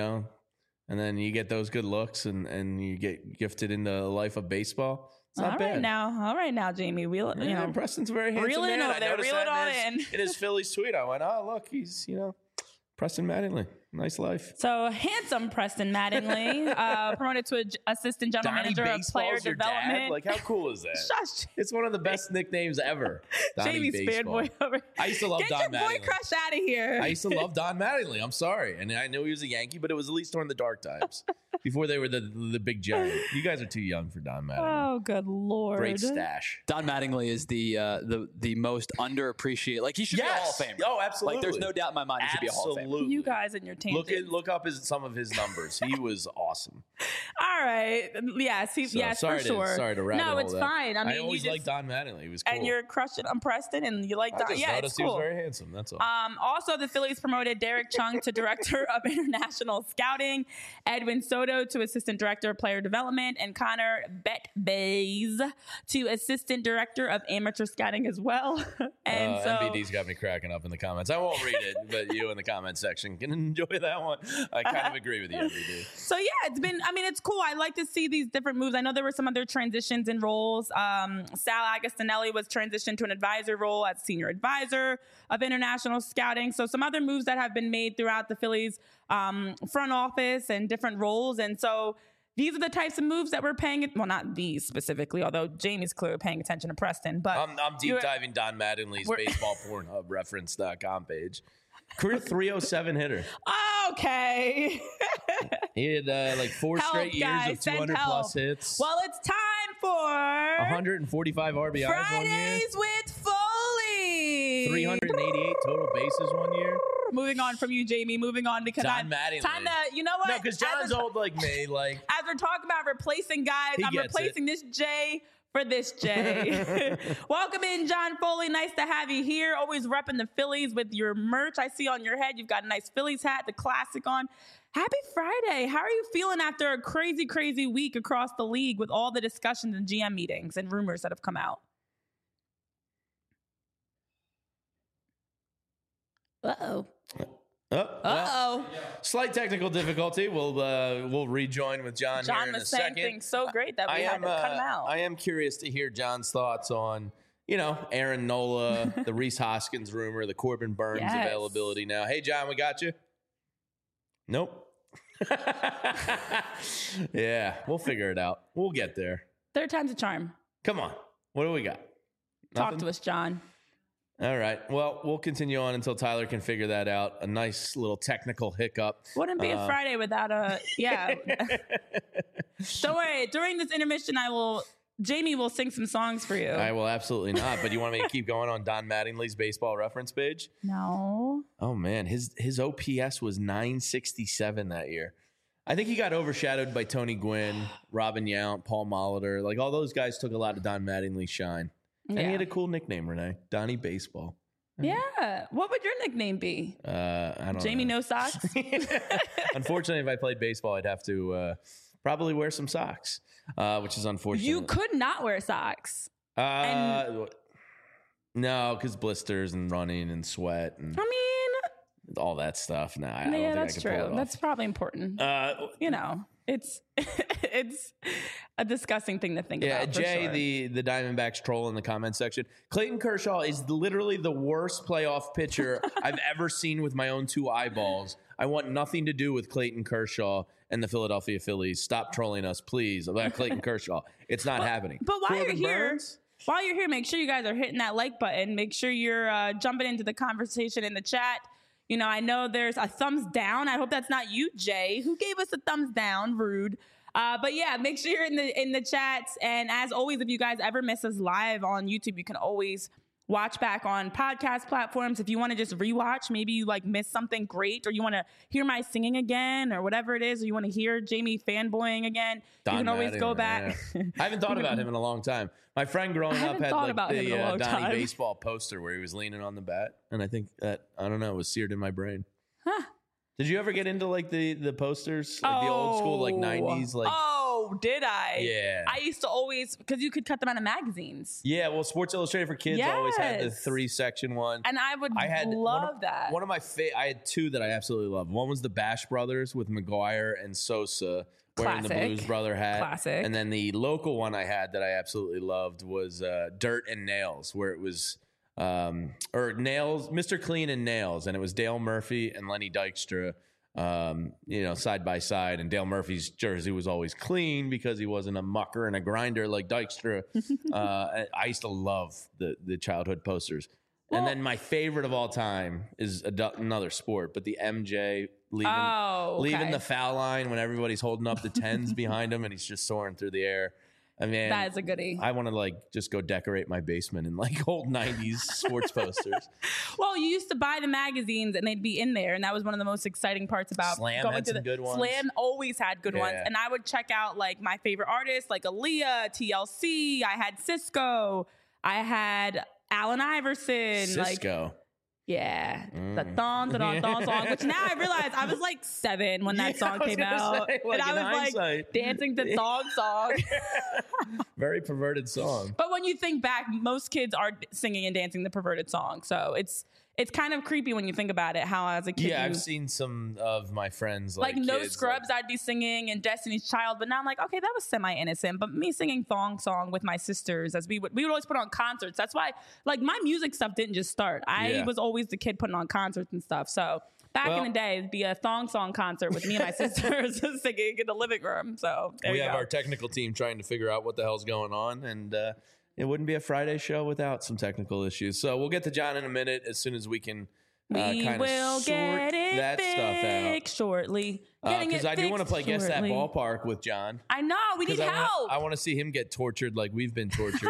Speaker 1: and then you get those good looks and you get gifted into the life of baseball. It's not bad.
Speaker 2: All right now, Jamie.
Speaker 1: Preston's a very handsome
Speaker 2: reel
Speaker 1: man.
Speaker 2: Over there, reel it on in.
Speaker 1: In his Phillies tweet, I went, oh, look, he's, Preston Mattingly. Nice life.
Speaker 2: So handsome Preston Mattingly, promoted to assistant general manager of player development.
Speaker 1: Dad? Like, how cool is that?
Speaker 2: Shush.
Speaker 1: It's one of the best nicknames ever.
Speaker 2: Jamie's fanboy over.
Speaker 1: I used to love Don Mattingly.
Speaker 2: Get your boy crush out of here.
Speaker 1: I used to love Don Mattingly. I'm sorry. And I knew he was a Yankee, but it was at least during the dark times. Before they were the big giant. You guys are too young for Don Mattingly.
Speaker 2: Oh, good Lord.
Speaker 1: Great stash.
Speaker 3: Don Mattingly is the most underappreciated. Like, he should be a Hall of Famer.
Speaker 1: Oh, absolutely.
Speaker 3: Like, there's no doubt in my mind he should be a Hall of Famer.
Speaker 2: You guys and your tangents.
Speaker 1: Look up some of his numbers. He was awesome.
Speaker 2: All right. Yes, for sure.
Speaker 1: Sorry to rabbit hole.
Speaker 2: No, it's fine.
Speaker 1: I always liked Don Mattingly. He was cool.
Speaker 2: And you're crushing on Preston, and you like Don.
Speaker 1: Yeah,
Speaker 2: it's cool.
Speaker 1: He was very handsome. That's all.
Speaker 2: Also, the Phillies promoted Derek Chung to Director of International Scouting, Edwin Soto to Assistant Director of Player Development, and Connor Betbays to Assistant Director of Amateur Scouting as well. And so
Speaker 1: MBD's got me cracking up in the comments. I won't read it, but you in the comment section can enjoy that one. I kind of agree with you, MBD.
Speaker 2: So yeah, it's cool. I like to see these different moves. I know there were some other transitions in roles. Sal Agostinelli was transitioned to an advisor role as senior advisor of international scouting. So some other moves that have been made throughout the Phillies front office and different roles. And so these are the types of moves that we're paying. Well, not these specifically, although Jamie's clearly paying attention to Preston. But
Speaker 1: I'm deep diving Don Mattingly's baseball Pornhub reference.com page. Career 307 hitter.
Speaker 2: Okay.
Speaker 1: He had 4 straight years of 200 plus hits.
Speaker 2: Well, it's time for
Speaker 1: 145 RBIs
Speaker 2: Fridays
Speaker 1: 1 year.
Speaker 2: with Foley.
Speaker 1: 388 total bases 1 year.
Speaker 2: Moving on from you, Jamie. Moving on because
Speaker 1: Don Mattingly.
Speaker 2: Time to, you know what?
Speaker 1: No, because John's old like me. Like,
Speaker 2: as we're talking about replacing guys, I'm replacing this J for this J. Welcome in, John Foley. Nice to have you here. Always repping the Phillies with your merch. I see on your head you've got a nice Phillies hat, the classic on. Happy Friday. How are you feeling after a crazy, crazy week across the league with all the discussions and GM meetings and rumors that have come out? Uh-oh.
Speaker 1: Well, slight technical difficulty. We'll rejoin with John here in a second. John was saying
Speaker 2: things so great that we had to cut him out.
Speaker 1: I am curious to hear John's thoughts on, Aaron Nola, the Rhys Hoskins rumor, the Corbin Burns availability now. Hey, John, we got you? Nope. Yeah, we'll figure it out. We'll get there.
Speaker 2: Third time's a charm.
Speaker 1: Come on. What do we got?
Speaker 2: Talk to us, John.
Speaker 1: All right. Well, we'll continue on until Tyler can figure that out. A nice little technical hiccup.
Speaker 2: Wouldn't be a Friday without a, yeah. Don't worry. During this intermission, Jamie will sing some songs for you.
Speaker 1: I will absolutely not. But you want me to keep going on Don Mattingly's baseball reference page?
Speaker 2: No.
Speaker 1: Oh, man. His OPS was 967 that year. I think he got overshadowed by Tony Gwynn, Robin Yount, Paul Molitor. Like, all those guys took a lot of Don Mattingly's shine. And he had a cool nickname, Renee. Donnie Baseball.
Speaker 2: Yeah. What would your nickname be?
Speaker 1: I don't know.
Speaker 2: Jamie No Socks?
Speaker 1: Unfortunately, if I played baseball, I'd have to probably wear some socks, which is unfortunate.
Speaker 2: You could not wear socks.
Speaker 1: No, because blisters and running and sweat and all that stuff. No, I don't think
Speaker 2: that's
Speaker 1: I could pull it off.
Speaker 2: That's probably important. It's it's a disgusting thing to think about.
Speaker 1: Yeah, Jay,
Speaker 2: sure.
Speaker 1: the Diamondbacks troll in the comment section. Clayton Kershaw is literally the worst playoff pitcher I've ever seen with my own 2 eyeballs. I want nothing to do with Clayton Kershaw and the Philadelphia Phillies. Stop trolling us, please, about Clayton Kershaw. It's not happening.
Speaker 2: But while you're here, make sure you guys are hitting that like button. Make sure you're jumping into the conversation in the chat. I know there's a thumbs down. I hope that's not you, Jay, who gave us a thumbs down. Rude. But yeah, make sure you're in the chats. And as always, if you guys ever miss us live on YouTube, you can always watch back on podcast platforms. If you want to just rewatch, maybe you missed something great, or you want to hear my singing again, or whatever it is, or you want to hear Jamie fanboying again, you can always go back.
Speaker 1: Yeah. I haven't thought about him in a long time. My friend growing up had the Donnie baseball poster where he was leaning on the bat, and I think that, I don't know, was seared in my brain. Huh. Did you ever get into the posters, the old school 90s
Speaker 2: did I?
Speaker 1: Yeah.
Speaker 2: I used to always, because you could cut them out of magazines.
Speaker 1: Yeah, well, Sports Illustrated for Kids always had the 3-section one.
Speaker 2: And I had love that.
Speaker 1: One of my I had two that I absolutely loved. One was the Bash Brothers with McGuire and Sosa wearing the Blues Brother hat.
Speaker 2: Classic.
Speaker 1: And then the local one I had that I absolutely loved was Dirt and Nails, where it was Nails, Mr. Clean and Nails, and it was Dale Murphy and Lenny Dykstra. Side by side, and Dale Murphy's jersey was always clean because he wasn't a mucker and a grinder like Dykstra. I used to love the childhood posters. Well, and then my favorite of all time is another sport, but the MJ leaving the foul line when everybody's holding up the 10s behind him and he's just soaring through the air. I mean,
Speaker 2: that is a goodie.
Speaker 1: I want to just go decorate my basement in old 90s sports posters.
Speaker 2: Well, you used to buy the magazines and they'd be in there, and that was one of the most exciting parts about
Speaker 1: Slam
Speaker 2: going
Speaker 1: had
Speaker 2: to
Speaker 1: some good ones.
Speaker 2: Slam always had good ones, and I would check out my favorite artists like Aaliyah, TLC. I had Cisco. I had Allen Iverson.
Speaker 1: Cisco.
Speaker 2: Yeah, the thong song, which now I realize I was 7 when that song came out. And I was dancing the thong song.
Speaker 1: Very perverted song.
Speaker 2: But when you think back, most kids are singing and dancing the perverted song. So it's kind of creepy when you think about it, how as a kid.
Speaker 1: Yeah, I've seen some of my friends
Speaker 2: No Scrubs, I'd be singing, and Destiny's Child, but now I'm okay, that was semi-innocent. But me singing thong song with my sisters, as we would always put on concerts. That's why my music stuff didn't just start. I was always the kid putting on concerts and stuff. So back in the day, it'd be a thong song concert with me and my sisters singing in the living room. So we have
Speaker 1: our technical team trying to figure out what the hell's going on, and it wouldn't be a Friday show without some technical issues. So we'll get to John in a minute as soon as we can kind of sort that stuff out
Speaker 2: shortly.
Speaker 1: Because I do want to play Guess That Ballpark with John.
Speaker 2: I know. We need help.
Speaker 1: I want to see him get tortured like we've been tortured.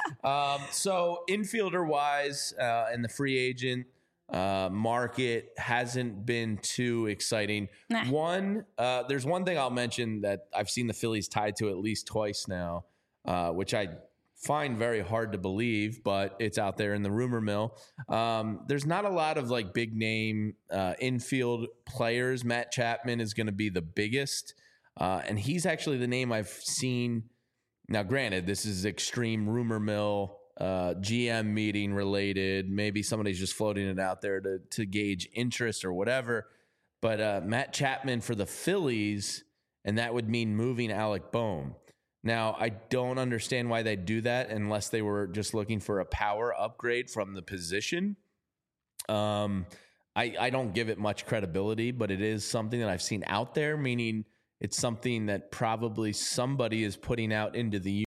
Speaker 1: So infielder-wise and the free agent market hasn't been too exciting. Nah. There's one thing I'll mention that I've seen the Phillies tied to at least twice now, which I find very hard to believe, but it's out there in the rumor mill. There's not a lot of big name infield players. Matt Chapman is going to be the biggest, and he's actually the name I've seen. Now, granted, this is extreme rumor mill, GM meeting related. Maybe somebody's just floating it out there to gauge interest or whatever. But Matt Chapman for the Phillies, and that would mean moving Alec Bohm. Now, I don't understand why they do that unless they were just looking for a power upgrade from the position. I don't give it much credibility, but it is something that I've seen out there, meaning it's something that probably somebody is putting out into the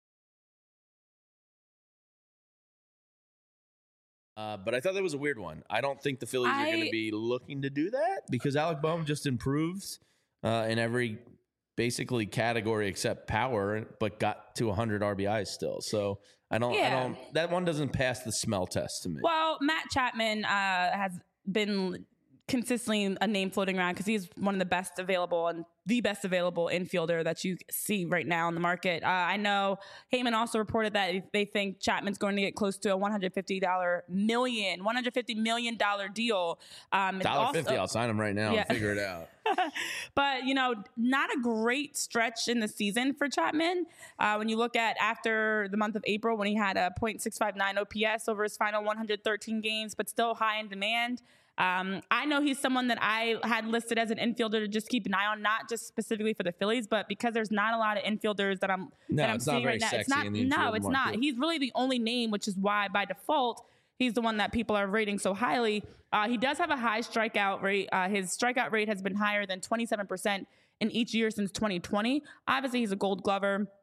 Speaker 1: but I thought that was a weird one. I don't think the Phillies are going to be looking to do that because Alec Bohm just improves in every basically category except power, but got to 100 RBIs still. So I don't, that one doesn't pass the smell test to me.
Speaker 2: Well, Matt Chapman has been consistently a name floating around because he's one of the best available and the best available infielder that you see right now in the market. I know Heyman also reported that they think Chapman's going to get close to a $150 million deal.
Speaker 1: $1.50, I'll sign him right now and figure it out.
Speaker 2: But, not a great stretch in the season for Chapman. When you look at after the month of April when he had a .659 OPS over his final 113 games, but still high in demand. I know he's someone that I had listed as an infielder to just keep an eye on, not just specifically for the Phillies, but because there's not a lot of infielders that I'm seeing right now. It's not. He's really the only name, which is why by default he's the one that people are rating so highly. He does have a high strikeout rate. His strikeout rate has been higher than 27% in each year since 2020. Obviously, he's a Gold Glover.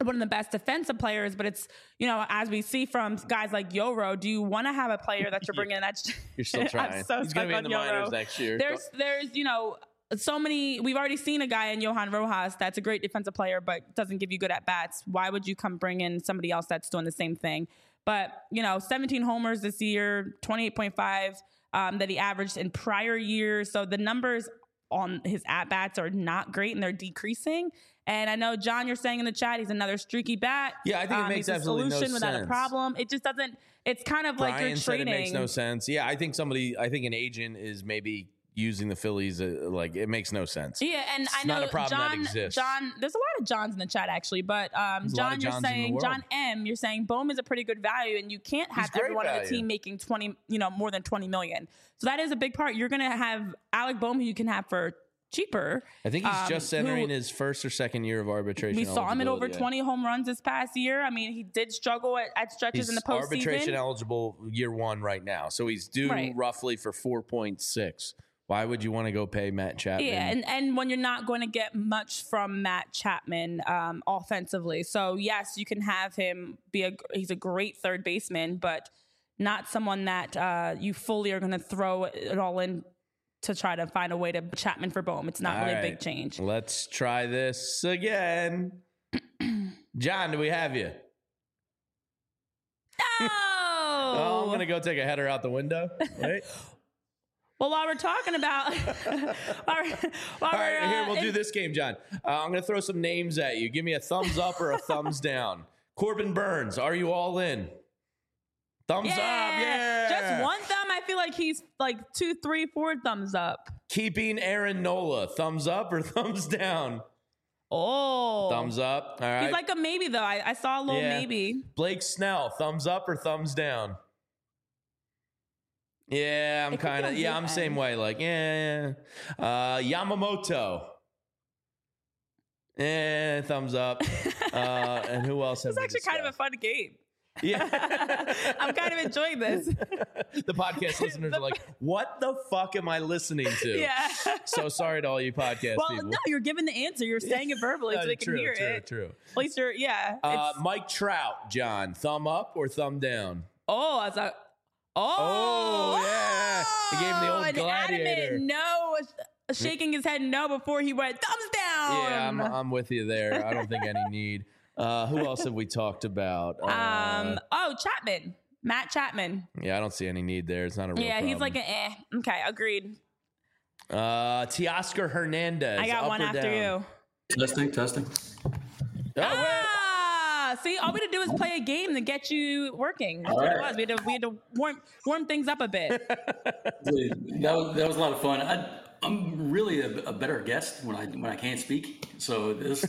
Speaker 2: one of the best defensive players, but it's, as we see from guys like Yoro, do you want to have a player that you're bringing in that's
Speaker 1: you're still trying.
Speaker 2: I'm so
Speaker 1: He's going to be in the minors next year.
Speaker 2: There's so many. We've already seen a guy in Johan Rojas that's a great defensive player, but doesn't give you good at bats. Why would you come bring in somebody else that's doing the same thing? But 17 homers this year, 28.5 that he averaged in prior years. So the numbers on his at bats are not great and they're decreasing. And I know, John, you're saying in the chat, he's another streaky bat.
Speaker 1: Yeah, I think it makes absolutely no sense.
Speaker 2: Without a problem. It just doesn't. It's kind of
Speaker 1: Brian
Speaker 2: like you're trading.
Speaker 1: Said it makes no sense. Yeah, I think an agent is maybe using the Phillies it makes no sense.
Speaker 2: Yeah, and
Speaker 1: it's
Speaker 2: I know
Speaker 1: not a problem
Speaker 2: John,
Speaker 1: that exists.
Speaker 2: John, there's a lot of Johns in the chat actually, but John, you're saying John M, you're saying Bowman's a pretty good value, and you can't have everyone on the team making 20, more than 20 million. So that is a big part. You're going to have Alec Bowman, who you can have for cheaper.
Speaker 1: I think he's just entering his first or second year of arbitration.
Speaker 2: We saw him at over 20 home runs this past year. I mean, he did struggle at stretches in the postseason. He's
Speaker 1: arbitration eligible year one right now, so he's due roughly for 4.6. Why would you want to go pay Matt Chapman?
Speaker 2: Yeah, and when you're not going to get much from Matt Chapman offensively. So, yes, you can have him he's a great third baseman, but not someone that you fully are going to throw it all in to try to find a way to Chapman for Bohm. It's not really a big change.
Speaker 1: Let's try this again. John, do we have you?
Speaker 2: No!
Speaker 1: I'm going to go take a header out the window. Right?
Speaker 2: Well, while we're talking about...
Speaker 1: all right, here, we'll do this game, John. I'm going to throw some names at you. Give me a thumbs up or a thumbs down. Corbin Burns, are you all in? Thumbs up, yeah.
Speaker 2: Just one thumb. I feel like he's like 2, 3, 4 thumbs up.
Speaker 1: Keeping Aaron Nola, thumbs up or thumbs down?
Speaker 2: Oh.
Speaker 1: Thumbs up. All right.
Speaker 2: He's like a maybe, though. I saw a little maybe.
Speaker 1: Blake Snell, thumbs up or thumbs down? Yeah, I'm kind of, I'm same way. Like, Yamamoto. Thumbs up. And who else have we
Speaker 2: It's actually kind of a fun game.
Speaker 1: Yeah.
Speaker 2: I'm kind of enjoying this.
Speaker 1: The podcast listeners are like, what the fuck am I listening to?
Speaker 2: Yeah.
Speaker 1: So sorry to all you podcast people.
Speaker 2: Well, no, you're giving the answer. You're saying it verbally so they can hear it.
Speaker 1: True.
Speaker 2: At least you're,
Speaker 1: Mike Trout, John, thumb up or thumb down?
Speaker 2: Oh, I was
Speaker 1: yeah. He gave him the old gladiator.
Speaker 2: No, shaking his head no before he went thumbs down.
Speaker 1: Yeah, I'm with you there. I don't think any need. Who else have we talked about?
Speaker 2: Chapman. Matt Chapman.
Speaker 1: Yeah, I don't see any need there. It's not a real problem.
Speaker 2: He's like Okay, agreed.
Speaker 1: Teoscar Hernandez.
Speaker 2: I got one after you.
Speaker 4: Testing.
Speaker 2: See, all we had to do is play a game to get you working. That's what it was. We had to warm things up a bit.
Speaker 4: That was a lot of fun. I'm really a better guest when I can't speak. So this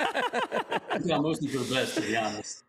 Speaker 4: I'm mostly for the best, to be honest.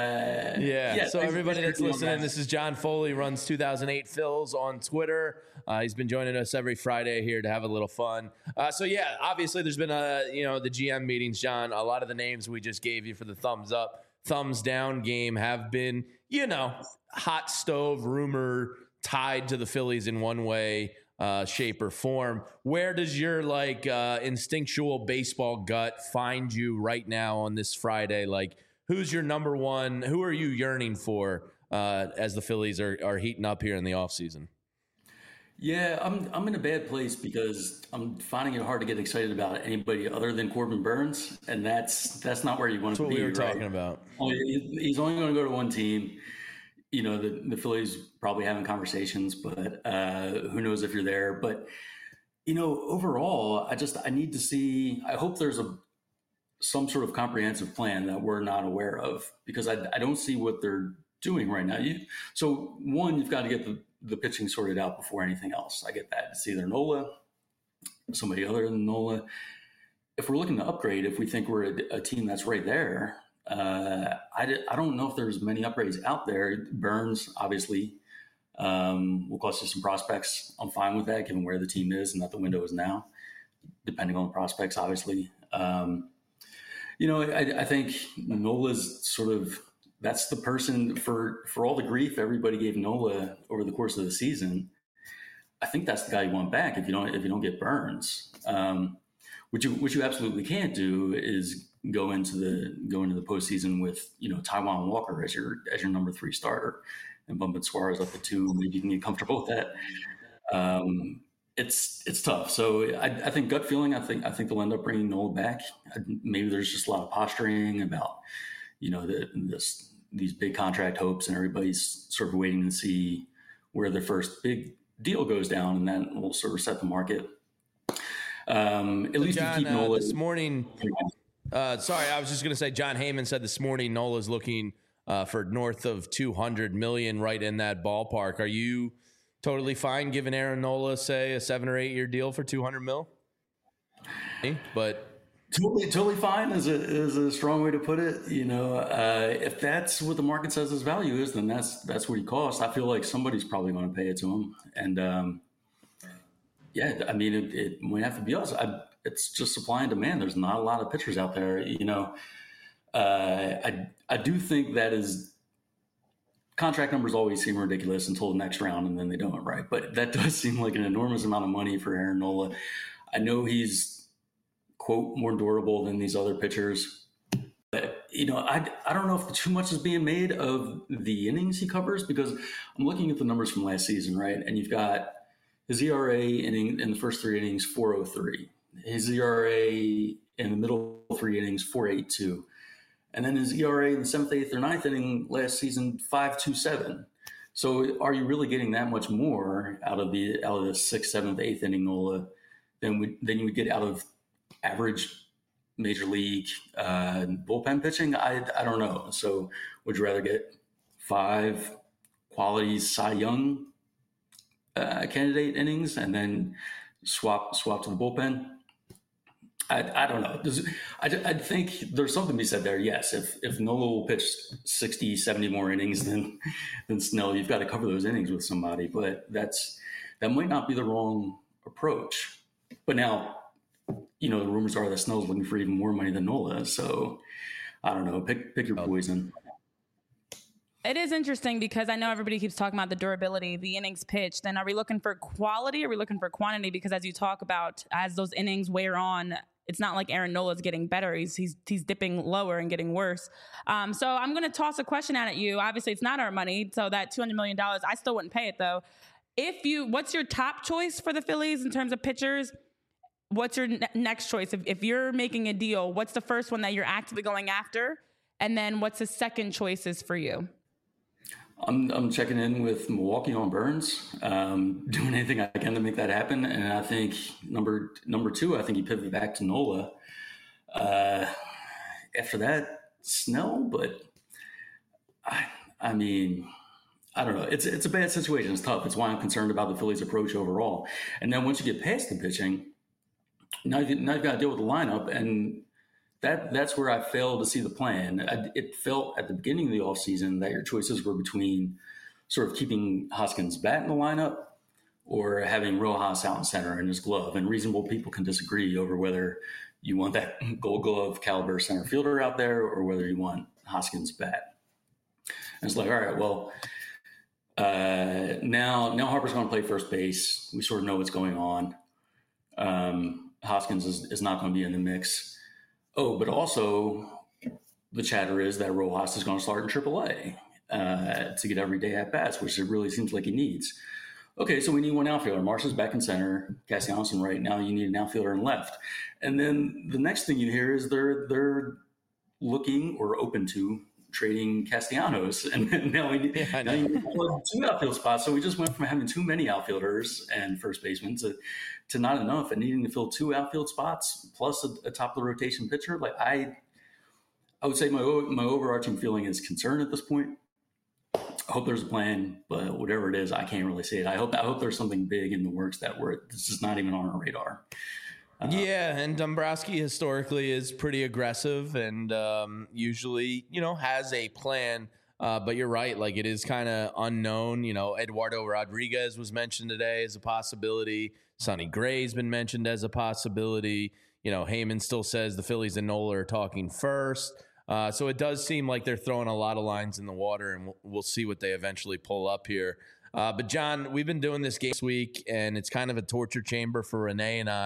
Speaker 1: So everybody that's listening, this is John Foley, runs 2008 Phils on Twitter. He's been joining us every Friday here to have a little fun. Obviously there's been the GM meetings, John. A lot of the names we just gave you for the thumbs up, thumbs down game have been, hot stove rumor tied to the Phillies in one way, shape or form. Where does your instinctual baseball gut find you right now on this Friday? Like, who's your number one? Who are you yearning for as the Phillies are heating up here in the offseason?
Speaker 4: Yeah, I'm in a bad place because I'm finding it hard to get excited about anybody other than Corbin Burns, and that's not where you want to be.
Speaker 1: That's what we were talking about.
Speaker 4: He's only going to go to one team. The Phillies probably having conversations, but who knows if you're there. But, overall, I need to see – I hope there's some sort of comprehensive plan that we're not aware of, because I don't see what they're doing right now. So, one, you've got to get the pitching sorted out before anything else. I get that. It's either Nola, somebody other than Nola. If we're looking to upgrade, if we think we're a team that's right there – I don't know if there's many upgrades out there. Burns, obviously, will cost you some prospects. I'm fine with that, given where the team is and that the window is now, depending on the prospects, obviously. I think Nola's sort of, that's the person for all the grief everybody gave Nola over the course of the season. I think that's the guy you want back if you don't get Burns. What you absolutely can't do is go into the postseason with, Taijuan Walker as your number 3 starter and bumping Suarez up to 2. Maybe you can get comfortable with that. It's tough. So I think gut feeling, I think they'll end up bringing Nola back. Maybe there's just a lot of posturing about, these big contract hopes, and everybody's sort of waiting to see where their first big deal goes down, and that will sort of set the market. At least
Speaker 1: John,
Speaker 4: keep Nola
Speaker 1: this morning. Sorry, I was just going to say John Heyman said this morning Nola's looking for north of $200 million, right in that ballpark. Are you totally fine giving Aaron Nola, say, a 7 or 8 year deal for $200 million? But
Speaker 4: totally fine is a strong way to put it. If that's what the market says his value is, then that's what he costs. I feel like somebody's probably going to pay it to him, and it might have to be us. It's just supply and demand. There's not a lot of pitchers out there. I do think that is contract numbers always seem ridiculous until the next round, and then they don't, right? But that does seem like an enormous amount of money for Aaron Nola. I know he's, quote, more durable than these other pitchers. But, I don't know if too much is being made of the innings he covers, because I'm looking at the numbers from last season, right? And you've got his ERA in the first 3 innings, 4.03. His ERA in the middle 3 innings, 4.82. And then his ERA in the 7th, 8th, or 9th inning last season, 5.27. So are you really getting that much more out of the 6th, 7th, 8th inning Nola than you would get out of average major league bullpen pitching? I don't know. So would you rather get 5 quality Cy Young candidate innings and then swap to the bullpen? I don't know. I think there's something to be said there. Yes, if Nola will pitch 60, 70 more innings than Snell, you've got to cover those innings with somebody. But that might not be the wrong approach. But now, the rumors are that Snell's looking for even more money than Nola. So I don't know. Pick your poison.
Speaker 2: It is interesting because I know everybody keeps talking about the durability, the innings pitched. Then are we looking for quality or are we looking for quantity? Because as you talk about, as those innings wear on, it's not like Aaron Nola's getting better. He's dipping lower and getting worse. So I'm going to toss a question out at you. Obviously, it's not our money. So that $200 million, I still wouldn't pay it, though. What's your top choice for the Phillies in terms of pitchers? What's your next choice? If you're making a deal, what's the first one that you're actively going after? And then what's the second choices for you?
Speaker 4: I'm checking in with Milwaukee on Burns, doing anything I can to make that happen. And I think number 2, I think he pivoted back to Nola. After that, Snell, but I mean, I don't know. It's a bad situation. It's tough. It's why I'm concerned about the Phillies' approach overall. And then once you get past the pitching, now you've got to deal with the lineup, and that's where I failed to see the plan. It felt at the beginning of the offseason that your choices were between sort of keeping Hoskins' bat in the lineup or having Rojas out in center in his glove. And reasonable people can disagree over whether you want that Gold Glove caliber center fielder out there or whether you want Hoskins' bat. And it's like, all right, well, now Harper's going to play first base. We sort of know what's going on. Hoskins is not going to be in the mix. Oh, but also the chatter is that Rojas is going to start in AAA to get everyday at-bats, which it really seems like he needs. Okay, so we need one outfielder. Marshall's back in center, Castellanos right now. You need an outfielder in left. And then the next thing you hear is they're looking or open to trading Castellanos. And now you need 2 outfield spots. So we just went from having too many outfielders and first basemen to not enough and needing to fill 2 outfield spots plus a top of the rotation pitcher. Like I would say my overarching feeling is concern at this point. I hope there's a plan, but whatever it is, I can't really see it. I hope there's something big in the works that this is not even on our radar.
Speaker 1: And Dombrowski historically is pretty aggressive and usually, has a plan. But you're right. Like it is kind of unknown. Eduardo Rodriguez was mentioned today as a possibility. Sonny Gray's been mentioned as a possibility. Heyman still says the Phillies and Nola are talking first. So it does seem like they're throwing a lot of lines in the water, and we'll see what they eventually pull up here. But John, we've been doing this game this week, and it's kind of a torture chamber for Renee and I.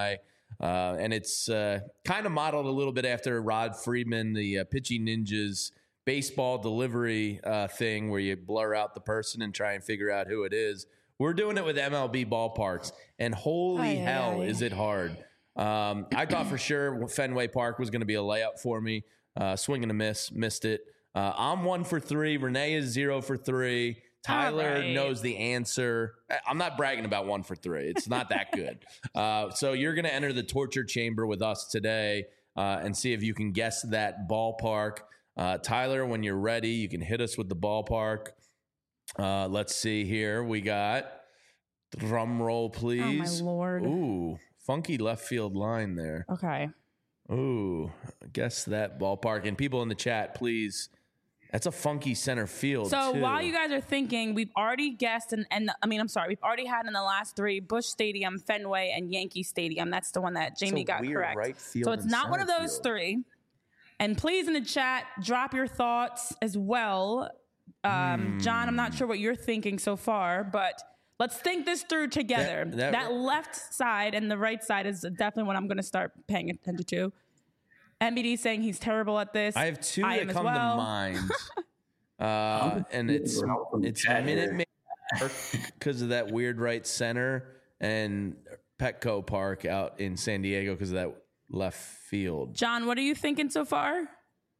Speaker 1: And it's kind of modeled a little bit after Rod Friedman, the Pitching Ninjas baseball delivery thing where you blur out the person and try and figure out who it is. We're doing it with MLB ballparks, and holy hell is it hard. I thought for sure Fenway Park was going to be a layup for me. Swing and a miss, missed it. I'm 1 for 3. Renee is 0 for 3. Tyler knows the answer. I'm not bragging about 1 for 3. It's not that good. So you're going to enter the torture chamber with us today and see if you can guess that ballpark. Tyler, when you're ready, you can hit us with the ballpark. Let's see here. We got, drum roll, please.
Speaker 2: Oh, my Lord.
Speaker 1: Ooh, funky left field line there.
Speaker 2: Okay.
Speaker 1: Ooh, guess that ballpark. And people in the chat, please. That's a funky center field,
Speaker 2: So
Speaker 1: too.
Speaker 2: while you guys are thinking, we've already guessed, we've already had in the last 3 Busch Stadium, Fenway, and Yankee Stadium. That's the one that Jamie got correct.
Speaker 1: Right field
Speaker 2: so it's not one of those
Speaker 1: field.
Speaker 2: 3. And please in the chat, drop your thoughts as well. John, I'm not sure what you're thinking so far, but let's think this through together. That left side and the right side is definitely what I'm going to start paying attention to. MBD saying he's terrible at this.
Speaker 1: I have 2 that come to mind. And it's Minute Maid Park because of that weird right center, and Petco Park out in San Diego because of that left field.
Speaker 2: John, what are you thinking so far?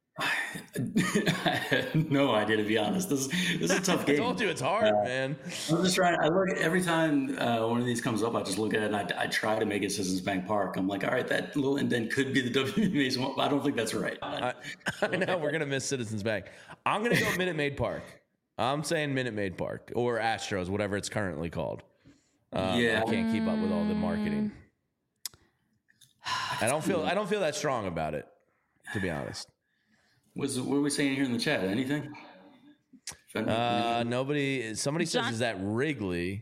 Speaker 4: I have no idea, to be honest. This is a tough game.
Speaker 1: I told you it's hard, man.
Speaker 4: I'm just trying. I look every time one of these comes up. I just look at it and I try to make it Citizens Bank Park. I'm like, all right, that little indent could be the WB Mason one. I don't think that's right.
Speaker 1: I know we're gonna miss Citizens Bank. I'm gonna go Minute Maid Park. I'm saying Minute Maid Park or Astros, whatever it's currently called. I can't keep up with all the marketing. I don't feel that strong about it, to be honest.
Speaker 4: What are we saying here in the chat? Anything?
Speaker 1: Nobody. Somebody says, is that Wrigley?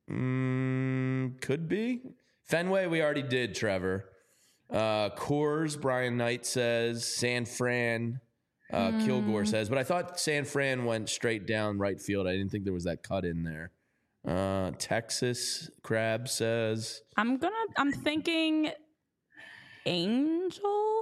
Speaker 1: Could be. Fenway, we already did, Trevor. Coors, Brian Knight says. San Fran, Kilgore says. But I thought San Fran went straight down right field. I didn't think there was that cut in there. Texas, Crab says.
Speaker 2: I'm thinking Angels.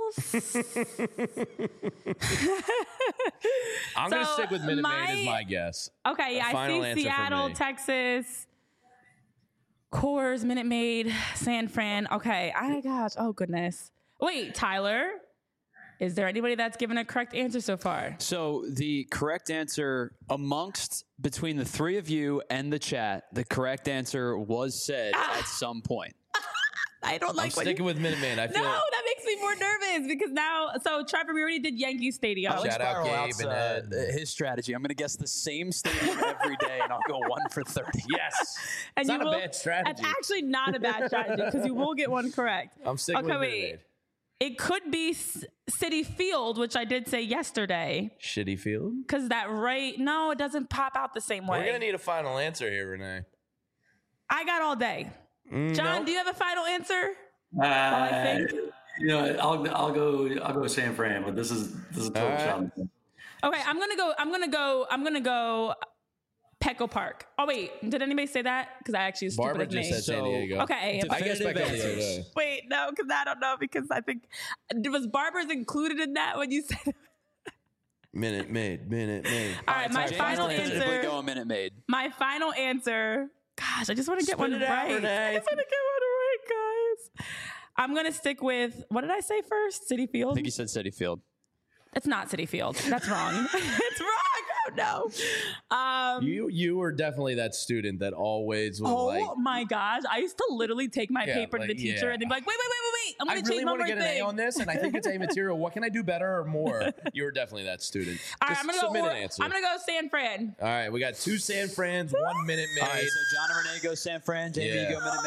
Speaker 1: I'm going to stick with Minute Maid as my guess.
Speaker 2: Okay, yeah, I see Seattle, Texas, Coors, Minute Maid, San Fran. Okay, oh goodness. Wait, Tyler, is there anybody that's given a correct answer so far?
Speaker 3: So the correct answer between the 3 of you and the chat, the correct answer was said at some point.
Speaker 2: I don't like.
Speaker 1: I'm sticking with Minute Maid. I feel
Speaker 2: that makes me more nervous because now. So Trevor, we already did Yankee Stadium.
Speaker 1: Shout out Gabe and Ed.
Speaker 3: His strategy. I'm going to guess the same stadium every day, and I'll go 1 for 30.
Speaker 1: Yes,
Speaker 2: and
Speaker 1: it's not a bad strategy.
Speaker 2: That's actually not a bad strategy because you will get one correct.
Speaker 1: I'm sticking with Minute Maid.
Speaker 2: It could be Citi Field, which I did say yesterday.
Speaker 1: Shitty Field?
Speaker 2: Because no, it doesn't pop out the same way.
Speaker 1: We're going to need a final answer here, Renee.
Speaker 2: I got all day. John, do you have a final answer?
Speaker 4: I think. I'll go San Fran, but this is a total challenge.
Speaker 2: Okay, I'm gonna go Petco Park. Oh wait, did anybody say that? Because I actually was
Speaker 1: Barbara
Speaker 2: stupid
Speaker 1: just said San Diego.
Speaker 2: Okay,
Speaker 1: I guess Petco.
Speaker 2: Wait, no, because I don't know because I think was Barbara's included in that when you said.
Speaker 1: Minute Maid.
Speaker 2: All right, my final answer.
Speaker 3: Go a Minute Maid.
Speaker 2: My final answer. Gosh, I just want to get one right. I just want to get one right, guys. I'm going to stick with, what did I say first? Citi Field?
Speaker 3: I think you said Citi Field.
Speaker 2: It's not Citi Field. That's wrong. It's wrong. Oh, no.
Speaker 1: You were definitely that student that always was
Speaker 2: Oh, my gosh. I used to literally take my paper to the teacher and they'd be like, wait. I'm going to change my
Speaker 1: I really want to get an A on this, and I think it's A material. What can I do better or more? You were definitely that student.
Speaker 2: All right, I'm going to go San Fran.
Speaker 1: All right, we got 2 San Frans, 1 Minute Maid.
Speaker 3: All right, so John and Renee go San Fran. Jamie, you go Minute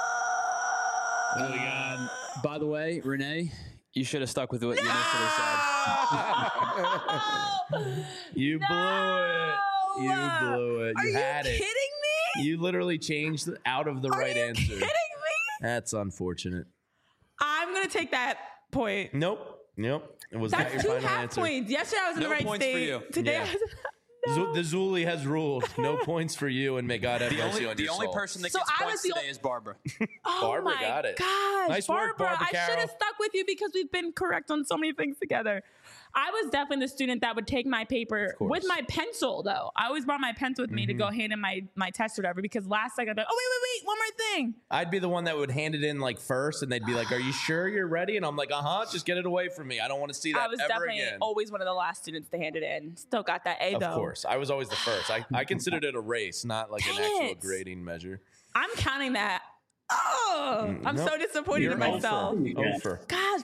Speaker 3: Maid. By the way, Renee, you should have stuck with what you initially said.
Speaker 1: You blew it.
Speaker 2: Are you kidding me?
Speaker 1: You literally changed out of the right answer.
Speaker 2: Are you kidding me?
Speaker 1: That's unfortunate.
Speaker 2: I'm going to take that point.
Speaker 1: Nope. It was
Speaker 2: That's
Speaker 1: not your
Speaker 2: 2
Speaker 1: final
Speaker 2: half
Speaker 1: answer.
Speaker 2: points. Yesterday I was in the right
Speaker 3: points
Speaker 2: state.
Speaker 3: For you.
Speaker 2: Today
Speaker 1: yeah.
Speaker 2: I was No.
Speaker 1: The Zuli has ruled. No points for you, and may God have mercy on your soul.
Speaker 3: The only person that gets points today is Barbara.
Speaker 1: Barbara got it.
Speaker 2: Gosh,
Speaker 1: nice work, Barbara
Speaker 2: I should have stuck with you because we've been correct on so many things together. I was definitely the student that would take my paper with my pencil, though. I always brought my pencil with me to go hand in my test or whatever, because last second I'd be like, oh, wait, one more thing.
Speaker 1: I'd be the one that would hand it in like first, and they'd be like, are you sure you're ready? And I'm like, just get it away from me. I don't want to see that ever again. I was definitely
Speaker 2: always one of the last students to hand it in. Still got that A, though.
Speaker 1: Of course. I was always the first. I considered it a race, not like an actual grading measure.
Speaker 2: I'm counting that. Oh, I'm so disappointed in myself. Gosh.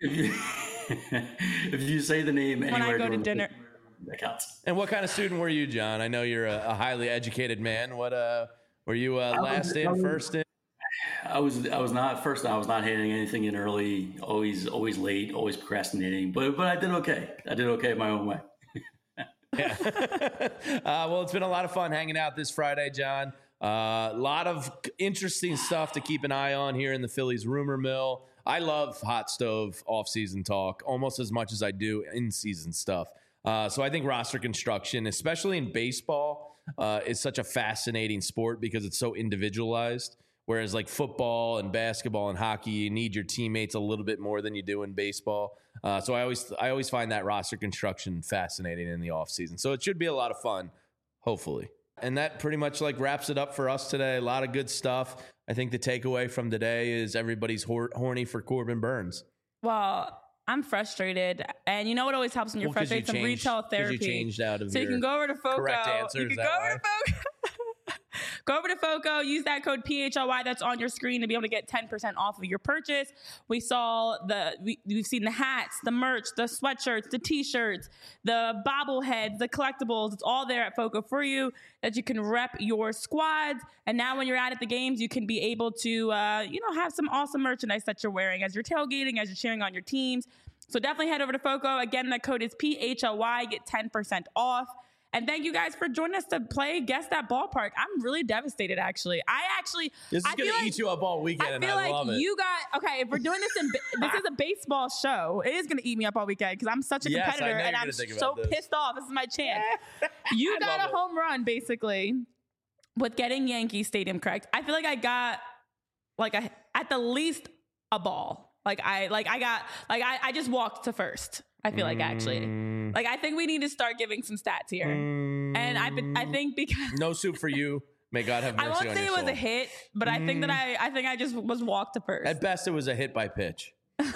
Speaker 4: If you say the name
Speaker 2: when I go to dinner,
Speaker 4: that counts.
Speaker 1: And what kind of student were you, John? I know you're a highly educated man. What were you last in, first in?
Speaker 4: I was not first. I was not handing anything in early. Always late. Always procrastinating. But I did okay. I did okay my own way.
Speaker 1: Yeah. Well, it's been a lot of fun hanging out this Friday, John. A lot of interesting stuff to keep an eye on here in the Phillies rumor mill. I love hot stove off-season talk almost as much as I do in-season stuff. So I think roster construction, especially in baseball, is such a fascinating sport because it's so individualized. Whereas like football and basketball and hockey, you need your teammates a little bit more than you do in baseball. So I always find that roster construction fascinating in the offseason. So it should be a lot of fun, hopefully. And that pretty much like wraps it up for us today. A lot of good stuff. I think the takeaway from today is everybody's horny for Corbin Burnes.
Speaker 2: Well, I'm frustrated. And you know what always helps when you're frustrated? Some retail therapy.
Speaker 1: You changed out of
Speaker 2: so you can go over to FOCO.
Speaker 1: Correct answer.
Speaker 2: You can go over to FOCO. Go over to FOCO, use that code PHLY that's on your screen to be able to get 10% off of your purchase. We've seen the hats, the merch, the sweatshirts, the t-shirts, the bobbleheads, the collectibles. It's all there at FOCO for you that you can rep your squads. And now when you're out at the games, you can be able to, have some awesome merchandise that you're wearing as you're tailgating, as you're cheering on your teams. So definitely head over to FOCO. Again, that code is PHLY. Get 10% off. And thank you guys for joining us to play Guess That Ballpark. I'm really devastated, actually.
Speaker 1: This is going to eat you up all weekend, and I love it.
Speaker 2: If we're doing this this is a baseball show, it is going to eat me up all weekend because I'm such a competitor, and I'm so pissed off. This is my chance. You got a home run, basically, with getting Yankee Stadium correct. I feel like I got, at the least, a ball. I just walked to first. I feel like actually, I think we need to start giving some stats here. And I think because
Speaker 1: no soup for you. May God have mercy on your soul.
Speaker 2: I won't say it was a hit, but I think that I just was walked to first.
Speaker 1: At best, it was a hit by pitch.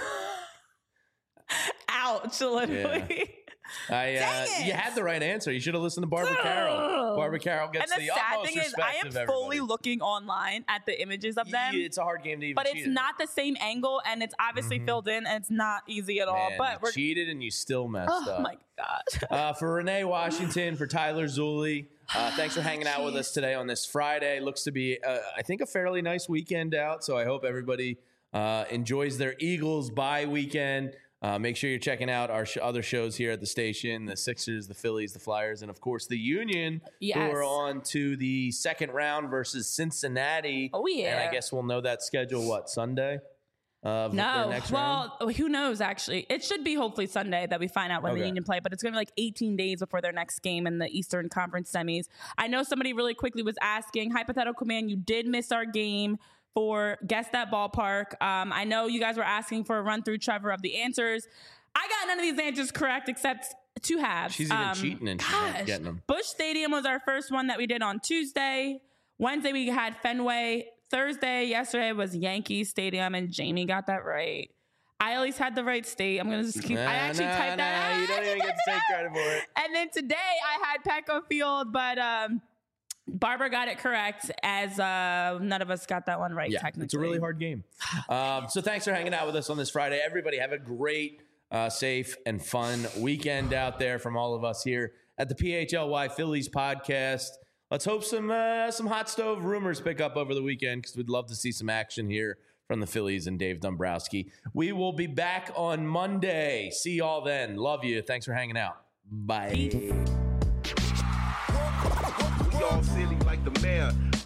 Speaker 2: Ouch! Literally.
Speaker 1: Yeah. You had the right answer. You should have listened to Barbara Carroll. Barbara Carroll gets the utmost respect of everybody.
Speaker 2: I am fully looking online at the images of them.
Speaker 1: It's a hard game to even
Speaker 2: cheat. But it's not the same angle, and it's obviously filled in, and it's not easy at all. But
Speaker 1: you cheated, and you still messed up.
Speaker 2: Oh, my gosh.
Speaker 1: For Renee Washington, for Tyler Zuli, thanks for hanging out with us today on this Friday. Looks to be, I think, a fairly nice weekend out, so I hope everybody enjoys their Eagles bye weekend. Make sure you're checking out our other shows here at the station, the Sixers, the Phillies, the Flyers, and, of course, the Union, who are on to the second round versus Cincinnati.
Speaker 2: Oh, yeah.
Speaker 1: And I guess we'll know that schedule, Sunday? Next
Speaker 2: round? Who knows, actually. It should be hopefully Sunday that we find out when the Union play, but it's going to be 18 days before their next game in the Eastern Conference semis. I know somebody really quickly was asking, hypothetical man, you did miss our game for Guess That Ballpark. I know you guys were asking for a run through, Trevor, of the answers. I got none of these answers correct except two halves.
Speaker 1: She's even cheating and she's not getting them.
Speaker 2: Busch Stadium was our first one that we did on Tuesday. Wednesday, we had Fenway. Thursday, yesterday was Yankee Stadium, and Jamie got that right. I at least had the right state. I'm going to just keep... I actually typed that out.
Speaker 1: You don't even get to take credit for it.
Speaker 2: And then today, I had Petco Field, but... Barbara got it correct, as none of us got that one right, technically.
Speaker 1: It's a really hard game. So thanks for hanging out with us on this Friday. Everybody have a great, safe, and fun weekend out there from all of us here at the PHLY Phillies podcast. Let's hope some hot stove rumors pick up over the weekend because we'd love to see some action here from the Phillies and Dave Dombrowski. We will be back on Monday. See y'all then. Love you. Thanks for hanging out. Bye.
Speaker 5: All silly like the mayor.